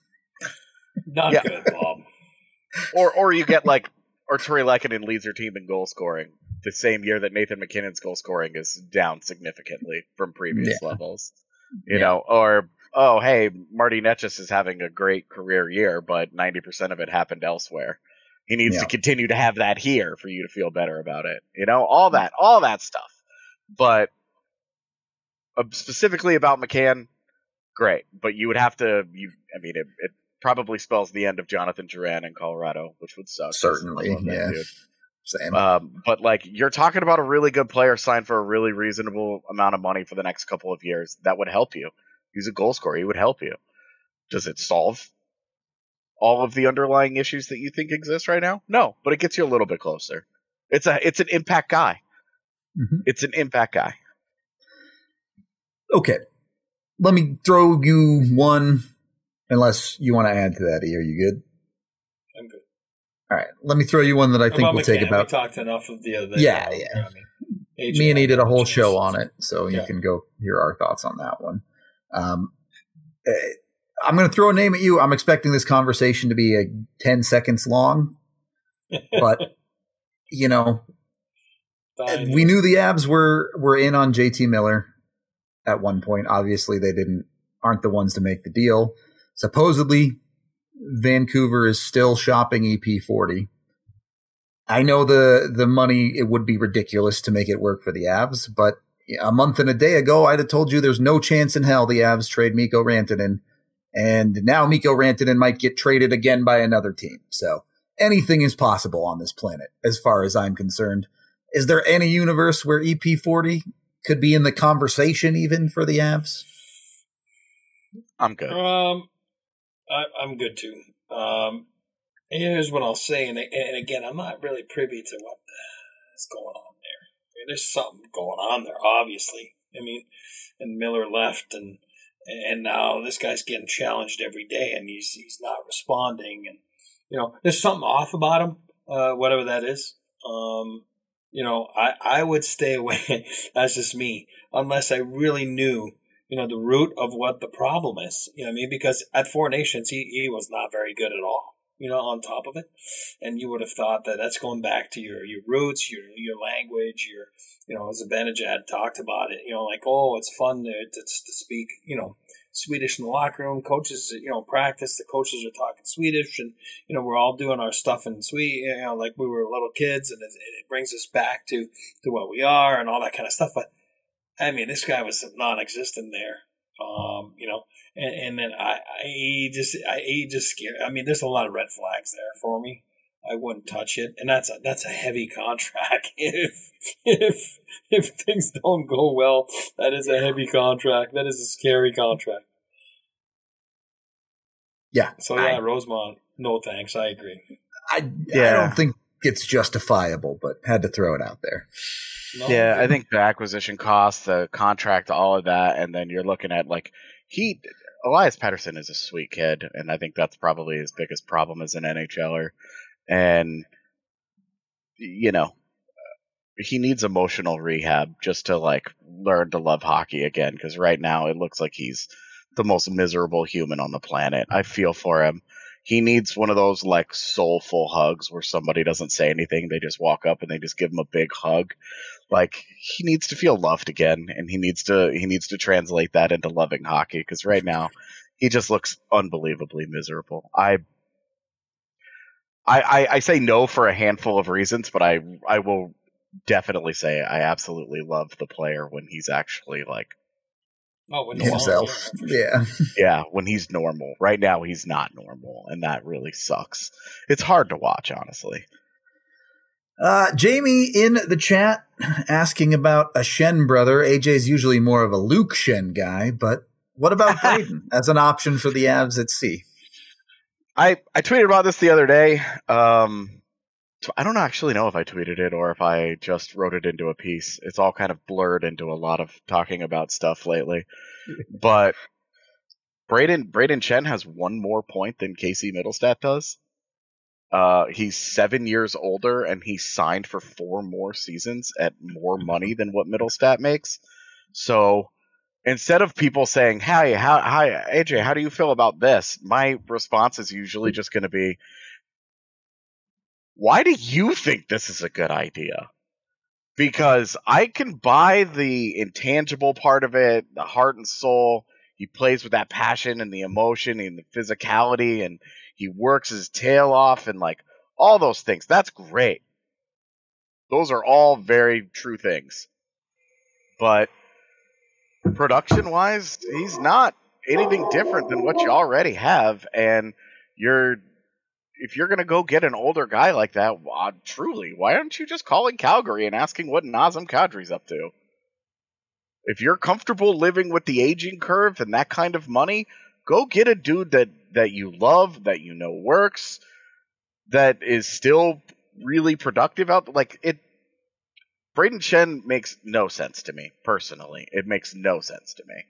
Not yeah. good, Bob. Or or you get like Arturi Lehkonen leads your team in goal scoring the same year that Nathan McKinnon's goal scoring is down significantly from previous yeah. levels. You yeah. know, or oh hey, Marty Netchus is having a great career year, but ninety percent of it happened elsewhere. He needs yeah. to continue to have that here for you to feel better about it. You know, all that, all that stuff. But uh, specifically about McCann, great. But you would have to, you. I mean, it, it probably spells the end of Jonathan Duran in Colorado, which would suck. Certainly, that, yeah. dude. Same. Um, but like, you're talking about a really good player signed for a really reasonable amount of money for the next couple of years. That would help you. He's a goal scorer. He would help you. Does it solve all of the underlying issues that you think exist right now? No, but it gets you a little bit closer. It's a, it's an impact guy. Mm-hmm. It's an impact guy. Okay. Let me throw you one, unless you want to add to that. E, are you good? I'm good. All right. Let me throw you one that I How think we'll McCann? take about. We talked enough of the other. Yeah, you know, yeah. I mean, Me and he did a whole show on it, so yeah. you can go hear our thoughts on that one. Um, I'm going to throw a name at you. I'm expecting this conversation to be a ten seconds long, but you know, Fine. we knew the Avs were were in on J T Miller at one point. Obviously, they didn't aren't the ones to make the deal. supposedly Vancouver is still shopping E P forty. I know the the money, it would be ridiculous to make it work for the Avs, but a month and a day ago, I'd have told you there's no chance in hell the Avs trade Mikko Rantanen. And now Mikko Rantanen might get traded again by another team. So anything is possible on this planet, as far as I'm concerned. Is there any universe where E P forty could be in the conversation even for the Avs? I'm good. Um, I, I'm good too. Um, here's what I'll say, and, and again, I'm not really privy to what is going on there. I mean, there's something going on there, obviously. I mean, and Miller left, and and now this guy's getting challenged every day, and he's he's not responding, and you know, there's something off about him, uh, whatever that is. Um, you know, I I would stay away. That's just me, unless I really knew, you know, the root of what the problem is. You know what I mean? Because at Four Nations, he, he was not very good at all, you know, on top of it. And you would have thought that that's going back to your, your roots, your your language, your, you know, as Zibanejad talked about it, you know, like, oh, it's fun to, to, to speak, you know, Swedish in the locker room. Coaches, you know, practice, the coaches are talking Swedish, and, you know, we're all doing our stuff in Swedish, you know, like we were little kids, and it, it brings us back to, to what we are and all that kind of stuff. But I mean, this guy was non-existent there, um, you know, and, and then I, I he just, I, he just scared. I mean, there's a lot of red flags there for me. I wouldn't touch it, and that's a that's a heavy contract. If if if things don't go well, that is a heavy contract. That is a scary contract. Yeah. So yeah, I, Rosemont, no thanks. I agree. I yeah. I don't think it's justifiable, but had to throw it out there. No, yeah, I think the acquisition costs, the contract, all of that, and then you're looking at, like, he, Elias Pettersson is a sweet kid, and I think that's probably his biggest problem as an NHLer. And, you know, he needs emotional rehab just to, like, learn to love hockey again, because right now it looks like he's the most miserable human on the planet. I feel for him. He needs one of those, like, soulful hugs where somebody doesn't say anything, they just walk up and they just give him a big hug. Like, he needs to feel loved again, and he needs to he needs to translate that into loving hockey, because right now he just looks unbelievably miserable. I, I I I say no for a handful of reasons, but I I will definitely say I absolutely love the player when he's actually, like, oh, when himself. Yeah. Yeah, when he's normal. Right now he's not normal, and that really sucks. It's hard to watch, honestly. Uh, Jamie in the chat asking about a Schenn brother. A J's usually more of a Luke Schenn guy, but what about Braden as an option for the Avs at sea? I, I tweeted about this the other day. Um, so I don't actually know if I tweeted it or if I just wrote it into a piece. It's all kind of blurred into a lot of talking about stuff lately. But Braden Braden Schenn has one more point than Casey Middlestat does. Uh, he's seven years older, and he's signed for four more seasons at more money than what Middlestat makes. So instead of people saying, "Hi, how, hi, A J, how do you feel about this?" my response is usually just going to be, "Why do you think this is a good idea?" Because I can buy the intangible part of it, the heart and soul. He plays with that passion and the emotion and the physicality, and he works his tail off, and, like, all those things. That's great. Those are all very true things. But production-wise, he's not anything different than what you already have. And you're, if you're going to go get an older guy like that, uh, truly, why aren't you just calling Calgary and asking what Nazem Kadri's up to? If you're comfortable living with the aging curve and that kind of money, go get a dude that, that you love, that you know works, that is still really productive out. Like, it, Braden Schenn makes no sense to me, personally. It makes no sense to me.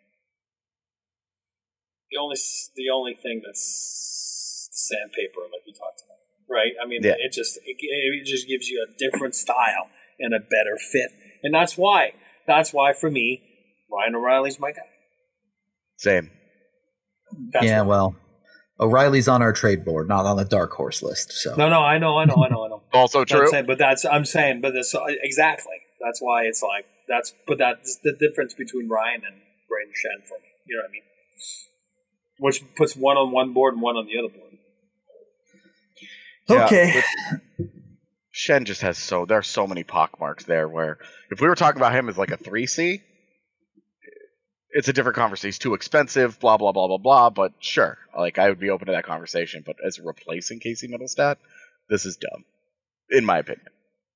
The only the only thing that's sandpaper, like we talked about, right? I mean, yeah. it just it, it just gives you a different style and a better fit, and that's why that's why for me, Ryan O'Reilly's my guy. Same. That's yeah, right. Well, O'Reilly's on our trade board, not on the dark horse list. So no, no, I know, I know, I know, I know. Also true. Saying, but that's I'm saying, but that's exactly that's why it's like that's but that's the difference between Ryan and Braden Schenn for me. You know what I mean? which puts one on one board and one on the other board. Yeah, Okay. but Shen just has so there are so many pockmarks there. Where if we were talking about him as like a three C, it's a different conversation. He's too expensive. Blah blah blah blah blah. But sure, like I would be open to that conversation. But as replacing Casey Middlestat, this is dumb, in my opinion.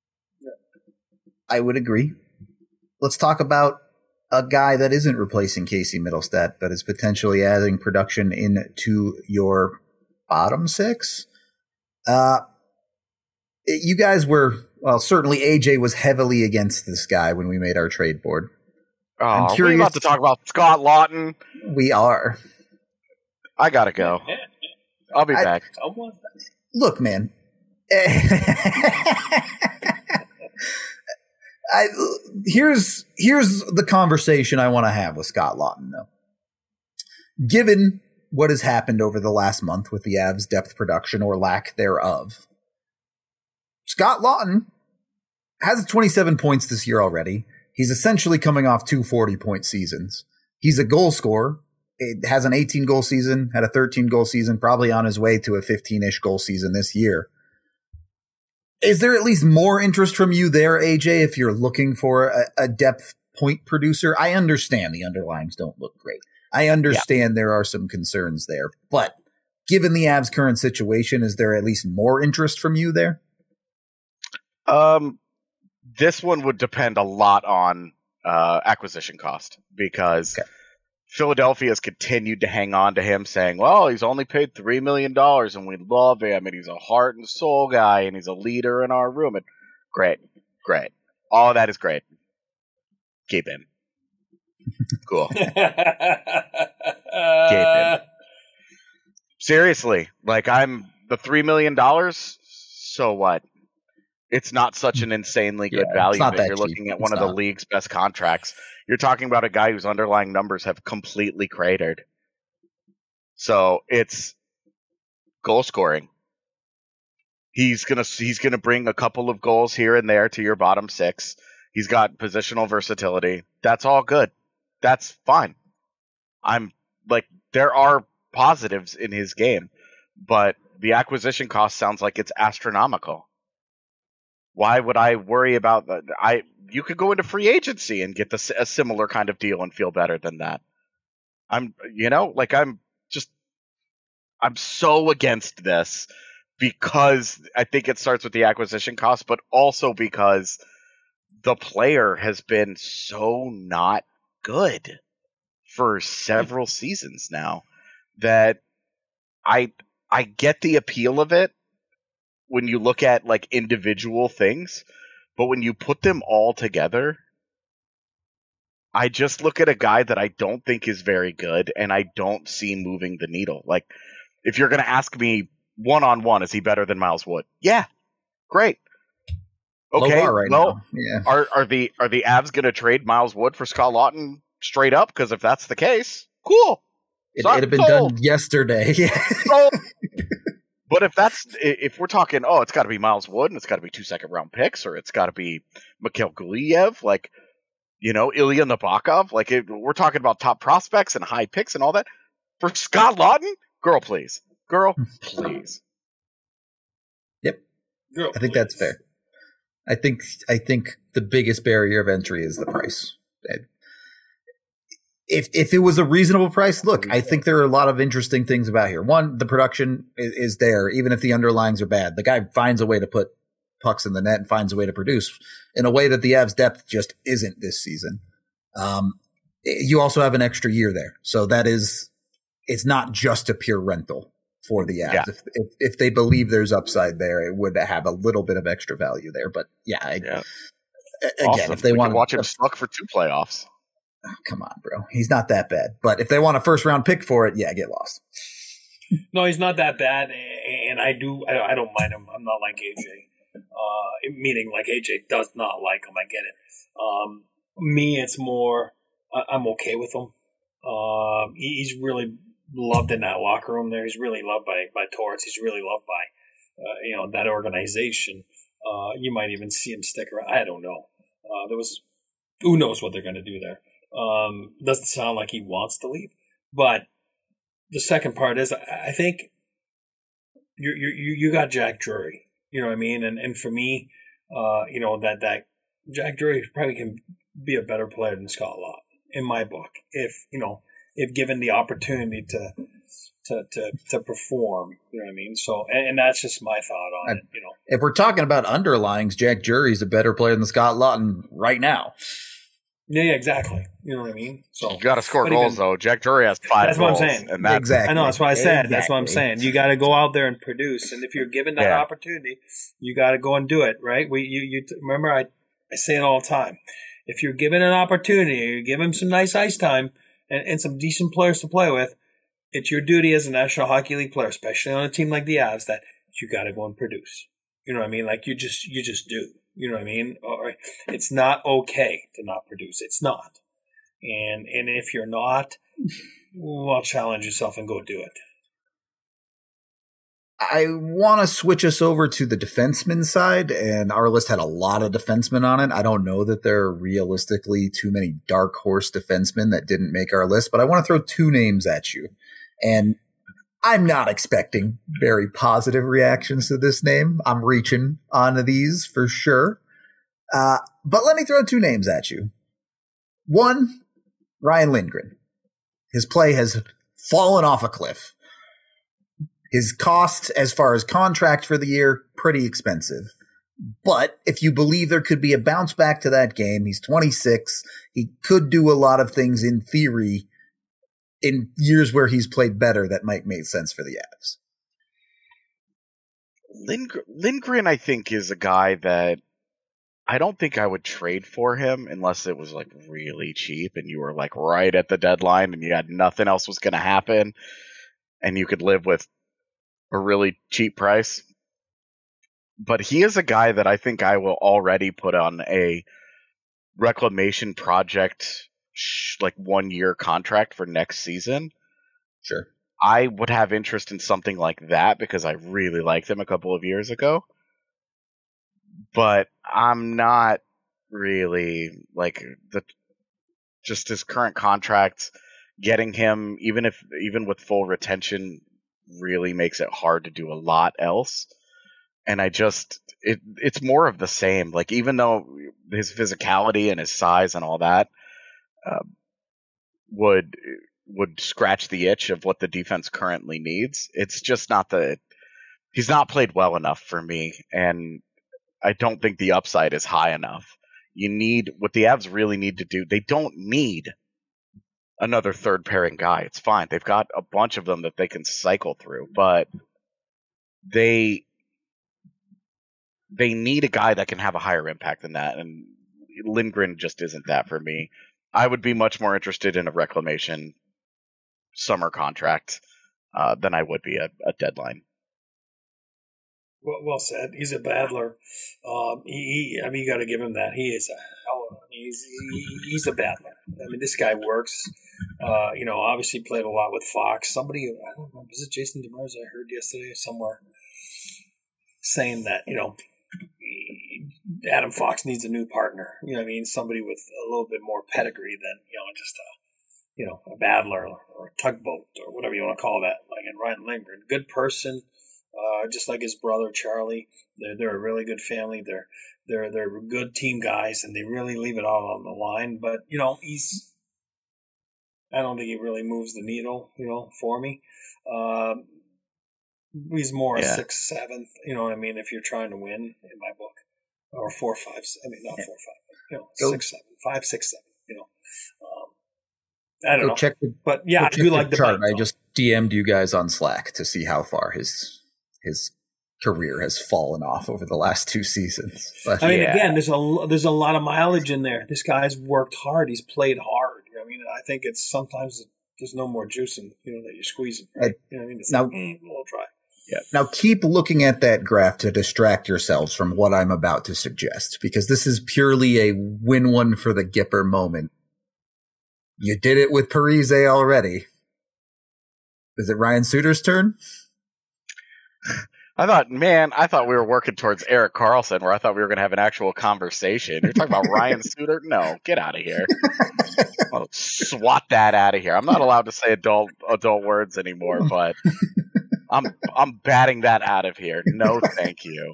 I would agree. Let's talk about a guy that isn't replacing Casey Middlestat, but is potentially adding production into your bottom six. Uh, you guys were, well, certainly A J was heavily against this guy when we made our trade board. Oh, I'm are curious- we about to talk about Scott Lawton? We are. I gotta go. I'll be I- back. Look, man. I, here's here's the conversation I want to have with Scott Lawton, though. Given what has happened over the last month with the Avs' depth production or lack thereof, Scott Lawton has twenty-seven points this year already. He's essentially coming off two forty-point seasons. He's a goal scorer. It has an eighteen-goal season, had a thirteen-goal season, probably on his way to a fifteen-ish goal season this year. Is there at least more interest from you there, A J, if you're looking for a, a depth point producer? I understand the underlines don't look great. I understand yeah. there are some concerns there. But given the Avs' current situation, is there at least more interest from you there? Um, this one would depend a lot on uh, acquisition cost because okay. Philadelphia has continued to hang on to him, saying, well, he's only paid three million dollars and we love him and he's a heart and soul guy and he's a leader in our room. And great, great. All of that is great. Keep him. Cool. Keep him. Seriously, like I'm the three million dollars, so what? It's not such an insanely good yeah, value that you're cheap. looking at it's one not. of the league's best contracts. You're talking about a guy whose underlying numbers have completely cratered. So it's goal scoring. He's gonna he's gonna bring a couple of goals here and there to your bottom six. He's got positional versatility. That's all good. That's fine. I'm like there are positives in his game, but the acquisition cost sounds like it's astronomical. Why would I worry about that? I you could go into free agency and get the, a similar kind of deal and feel better than that. I'm, you know, like I'm just, I'm so against this because I think it starts with the acquisition cost, but also because the player has been so not good for several seasons now that I I get the appeal of it when you look at like individual things, but when you put them all together, I just look at a guy that I don't think is very good and I don't see moving the needle. Like if you're going to ask me one on one, is he better than Miles Wood? Yeah. Great. Okay. Right well, yeah. are are the are the Avs going to trade Miles Wood for Scott Lawton straight up? Because if that's the case, cool. It, it'd have been sold. done yesterday. Sold. But if that's if we're talking, oh, it's got to be Miles Wood and it's got to be two second round picks, or it's got to be Mikhail Gulyev, like you know Ilya Nabokov, like it, we're talking about top prospects and high picks and all that. For Scott Lawton, girl, please, girl, please. Yep, girl, I think please. That's fair. I think I think the biggest barrier of entry is the price. If if it was a reasonable price, look, I think there are a lot of interesting things about here. One, the production is, is there, even if the underlines are bad. The guy finds a way to put pucks in the net and finds a way to produce in a way that the Avs' depth just isn't this season. Um, you also have an extra year there, so that is it's not just a pure rental for the Avs. Yeah. If, if if they believe there's upside there, it would have a little bit of extra value there. But yeah, I, yeah. again, awesome. if they we want to watch him suck for two playoffs. Oh, come on, bro. He's not that bad. But if they want a first round pick for it, yeah, get lost. No, he's not that bad, and I do. I, I don't mind him. I'm not like A J. Uh, meaning, like A J does not like him. I get it. Um, me, it's more. I'm okay with him. Um, he's really loved in that locker room. There, he's really loved by by Torts. He's really loved by uh, you know that organization. Uh, you might even see him stick around. I don't know. Uh, there was who knows what they're going to do there. Um, doesn't sound like he wants to leave, but the second part is I think you you you got Jack Drury. You know what I mean? And and for me, uh, you know that that Jack Drury probably can be a better player than Scott Laughton in my book, if you know if given the opportunity to to to, to perform. You know what I mean? So and, and that's just my thought on and, it. You know, if we're talking about underlyings, Jack Drury's a better player than Scott Laughton right now. Yeah, yeah, exactly. You know what I mean? So you got to score goals, even, though. Jack Drury has five that's goals. That's what I'm saying. And that's, exactly. I know. That's what I said. Exactly. That's what I'm saying. You got to go out there and produce. And if you're given that yeah. opportunity, you got to go and do it, right? We, you, you remember, I, I say it all the time. If you're given an opportunity, you give him some nice ice time and, and some decent players to play with, it's your duty as a National Hockey League player, especially on a team like the Avs, that you got to go and produce. You know what I mean? Like you just, you just do. You know what I mean? Or it's not okay to not produce. It's not. And and if you're not, well, challenge yourself and go do it. I want to switch us over to the defenseman side, and our list had a lot of defensemen on it. I don't know that there are realistically too many dark horse defensemen that didn't make our list, but I want to throw two names at you. And I'm not expecting very positive reactions to this name. I'm reaching onto these for sure. Uh, but let me throw two names at you. One, Ryan Lindgren. His play has fallen off a cliff. His cost as far as contract for the year, pretty expensive. But if you believe there could be a bounce back to that game, he's twenty-six. He could do a lot of things in theory in years where he's played better that might make sense for the Avs. Lindgren, Lindgren, I think, is a guy that I don't think I would trade for him unless it was like really cheap and you were like right at the deadline and you had nothing else was going to happen and you could live with a really cheap price. But he is a guy that I think I will already put on a reclamation project, like one year contract for next season. Sure. I would have interest in something like that because I really liked him a couple of years ago. But I'm not really like the just his current contract. Getting him, even if even with full retention, really makes it hard to do a lot else. And I just it it's more of the same. Like even though his physicality and his size and all that uh, would would scratch the itch of what the defense currently needs, it's just not the he's not played well enough for me, and I don't think the upside is high enough. You need what the Avs really need to do. They don't need another third pairing guy. It's fine. They've got a bunch of them that they can cycle through, but they they need a guy that can have a higher impact than that, and Lindgren just isn't that for me. I would be much more interested in a reclamation summer contract uh, than I would be a, a deadline. Well, well said. He's a battler. Um, he, he, I mean, you got to give him that. He is a hell of. I mean, he's he, he's a battler. I mean, this guy works. Uh, you know, obviously played a lot with Fox. Somebody, I don't know, was it Jason Demers? I heard yesterday somewhere saying that you know Adam Fox needs a new partner. You know what I mean? Somebody with a little bit more pedigree than you know just a you know a battler or a tugboat or whatever you want to call that. Like in Ryan Lindgren, good person. Uh, just like his brother Charlie, they're they're a really good family. They're they're they're good team guys, and they really leave it all on the line. But you know, he's I don't think he really moves the needle, you know, for me. Um, he's more yeah. a six, seventh. You know what I mean? If you're trying to win, in my book, or four, five. I mean, not four, five. But, you know, Go. six, seven, five, six, seven. You know, um, I don't Go know. check the, but yeah, I do like the chart. bite, I just D M'd you guys on Slack to see how far his his career has fallen off over the last two seasons. But, I mean, yeah. again, there's a there's a lot of mileage in there. This guy's worked hard. He's played hard. I mean, I think it's sometimes there's no more juice in you know that you're squeezing. Right? You know what I mean? It's now, like, mm, we'll try. Yeah. Now keep looking at that graph to distract yourselves from what I'm about to suggest, because this is purely a win one for the Gipper moment. You did it with Parise already. Is it Ryan Suter's turn? I thought, man, I thought we were working towards Erik Karlsson, where I thought we were going to have an actual conversation. You're talking about Ryan Suter? No, get out of here. I'll swat that out of here. I'm not allowed to say adult adult words anymore, but I'm I'm batting that out of here. No, thank you.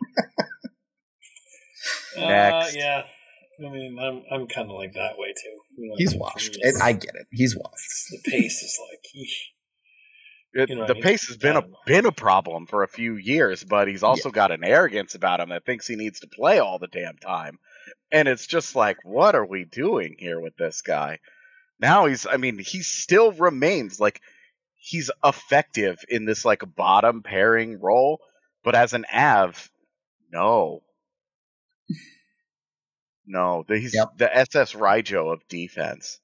Next. Uh, yeah. I mean, I'm I'm kind of like that way too. You know, He's washed. It, I get it. He's washed. The pace is like. Eesh. It, You know, the pace has been a been a problem for a few years, but he's also Yeah. got an arrogance about him that thinks he needs to play all the damn time. And it's just like, what are we doing here with this guy? Now he's, I mean, he still remains like he's effective in this like bottom pairing role, but as an Av, no, no, he's Yep. the S S Raijo of defense.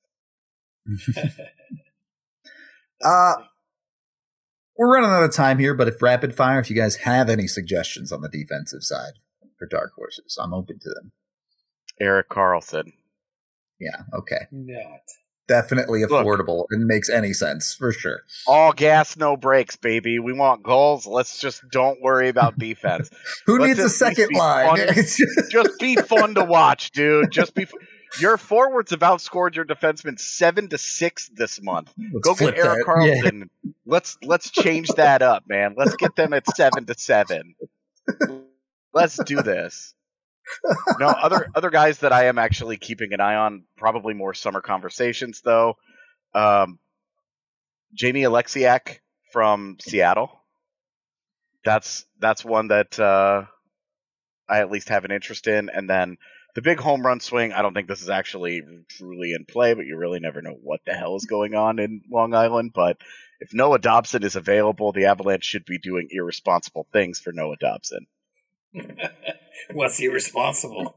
Uh, we're running out of time here, but if rapid fire, if you guys have any suggestions on the defensive side for dark horses, I'm open to them. Erik Karlsson. Yeah, okay. Not. Definitely Look. affordable and makes any sense for sure. All gas, no brakes, baby. We want goals. Let's just don't worry about defense. Who Let's needs a at least second be line? fun. It's just- Just be fun to watch, dude. Just be. F- your forwards have outscored your defensemen seven to six this month. Let's Go flip get Erik that. Karlsson. Let's let's change that up, man. Let's get them at seven to seven. Let's do this. No, other other guys that I am actually keeping an eye on, probably more summer conversations though. Um, Jamie Alexiak from Seattle. That's that's one that uh, I at least have an interest in. And then the big home run swing, I don't think this is actually truly in play, but you really never know what the hell is going on in Long Island. But if Noah Dobson is available, the Avalanche should be doing irresponsible things for Noah Dobson. What's irresponsible?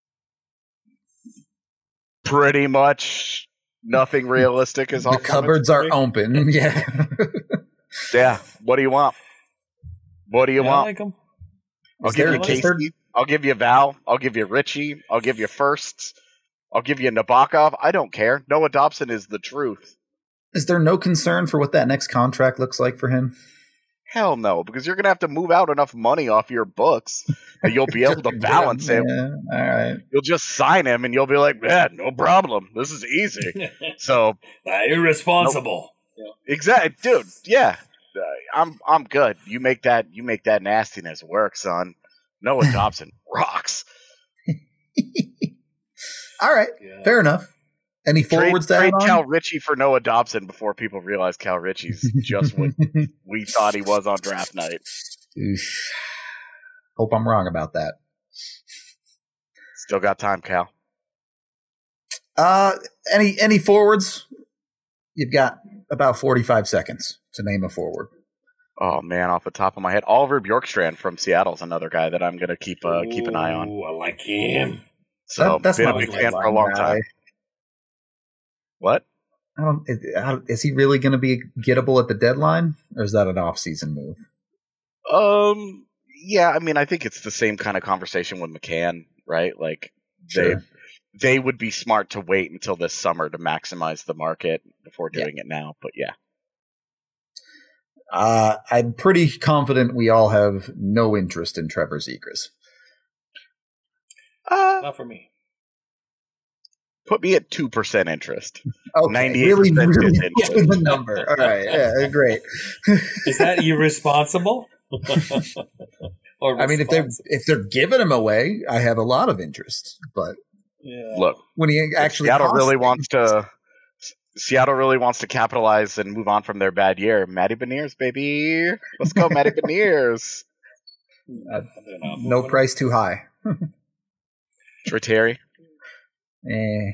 Pretty much nothing realistic is the off cupboards limits. are open. Yeah. Yeah. What do you want? What do you Yeah, I want? like 'em. I'll Is give there- you is Casey. there- I'll give you Val. I'll give you Richie. I'll give you Firsts. I'll give you Nabokov. I don't care. Noah Dobson is the truth. Is there no concern for what that next contract looks like for him? Hell no, because you're gonna have to move out enough money off your books, and you'll be able to balance it. Yeah, all right. You'll just sign him, and you'll be like, "Yeah, no problem. This is easy." So Uh, irresponsible. exactly, dude. Yeah, uh, I'm I'm good. You make that you make that nastiness work, son. Noah Dobson rocks. All right. Yeah. Fair enough. Any Trade, forwards to trade add on? Cal Ritchie for Noah Dobson before people realize Cal Ritchie's just what we thought he was on draft night. Oof. Hope I'm wrong about that. Still got time, Cal. Uh, any any forwards? You've got about forty-five seconds to name a forward. Oh man, off the top of my head, Oliver Bjorkstrand from Seattle is another guy that I'm gonna keep uh, keep an eye on. Ooh, I like him. So That- that's been a not big his fan for a line long guy. time. What? I don't, is, I don't- is he really going to be gettable at the deadline, or is that an off-season move? Um, yeah, I mean, I think it's the same kind of conversation with McCann, right? Like they Sure. they would be smart to wait until this summer to maximize the market before doing it now. But yeah, Uh, I'm pretty confident we all have no interest in Trevor Zegras. uh, Not for me. put me at two percent interest. Okay, ninety-eight really, percent really disinterest. give the number. All right, yeah, great. Is that irresponsible? Or I mean, if they're responsible? if they're giving him away, I have a lot of interest. But Yeah. Look, when he actually Seattle costs really me- wants to. Seattle really wants to capitalize and move on from their bad year. Matty Beniers, baby, let's go, Matty Beniers. uh, They're not no moving. price too high. Triteri. Eh,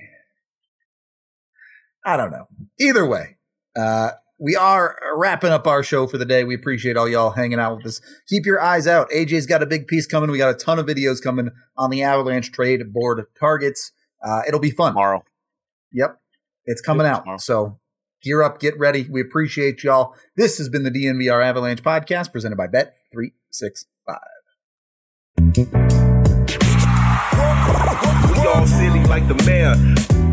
I don't know. Either way, uh, we are wrapping up our show for the day. We appreciate all y'all hanging out with us. Keep your eyes out. A J's got a big piece coming. We got a ton of videos coming on the Avalanche trade board targets. Uh, it'll be fun. Tomorrow. Yep. It's coming out. Tomorrow. So gear up, get ready. We appreciate y'all. This has been the D N V R Avalanche podcast presented by Bet three sixty-five. We all silly like the mayor.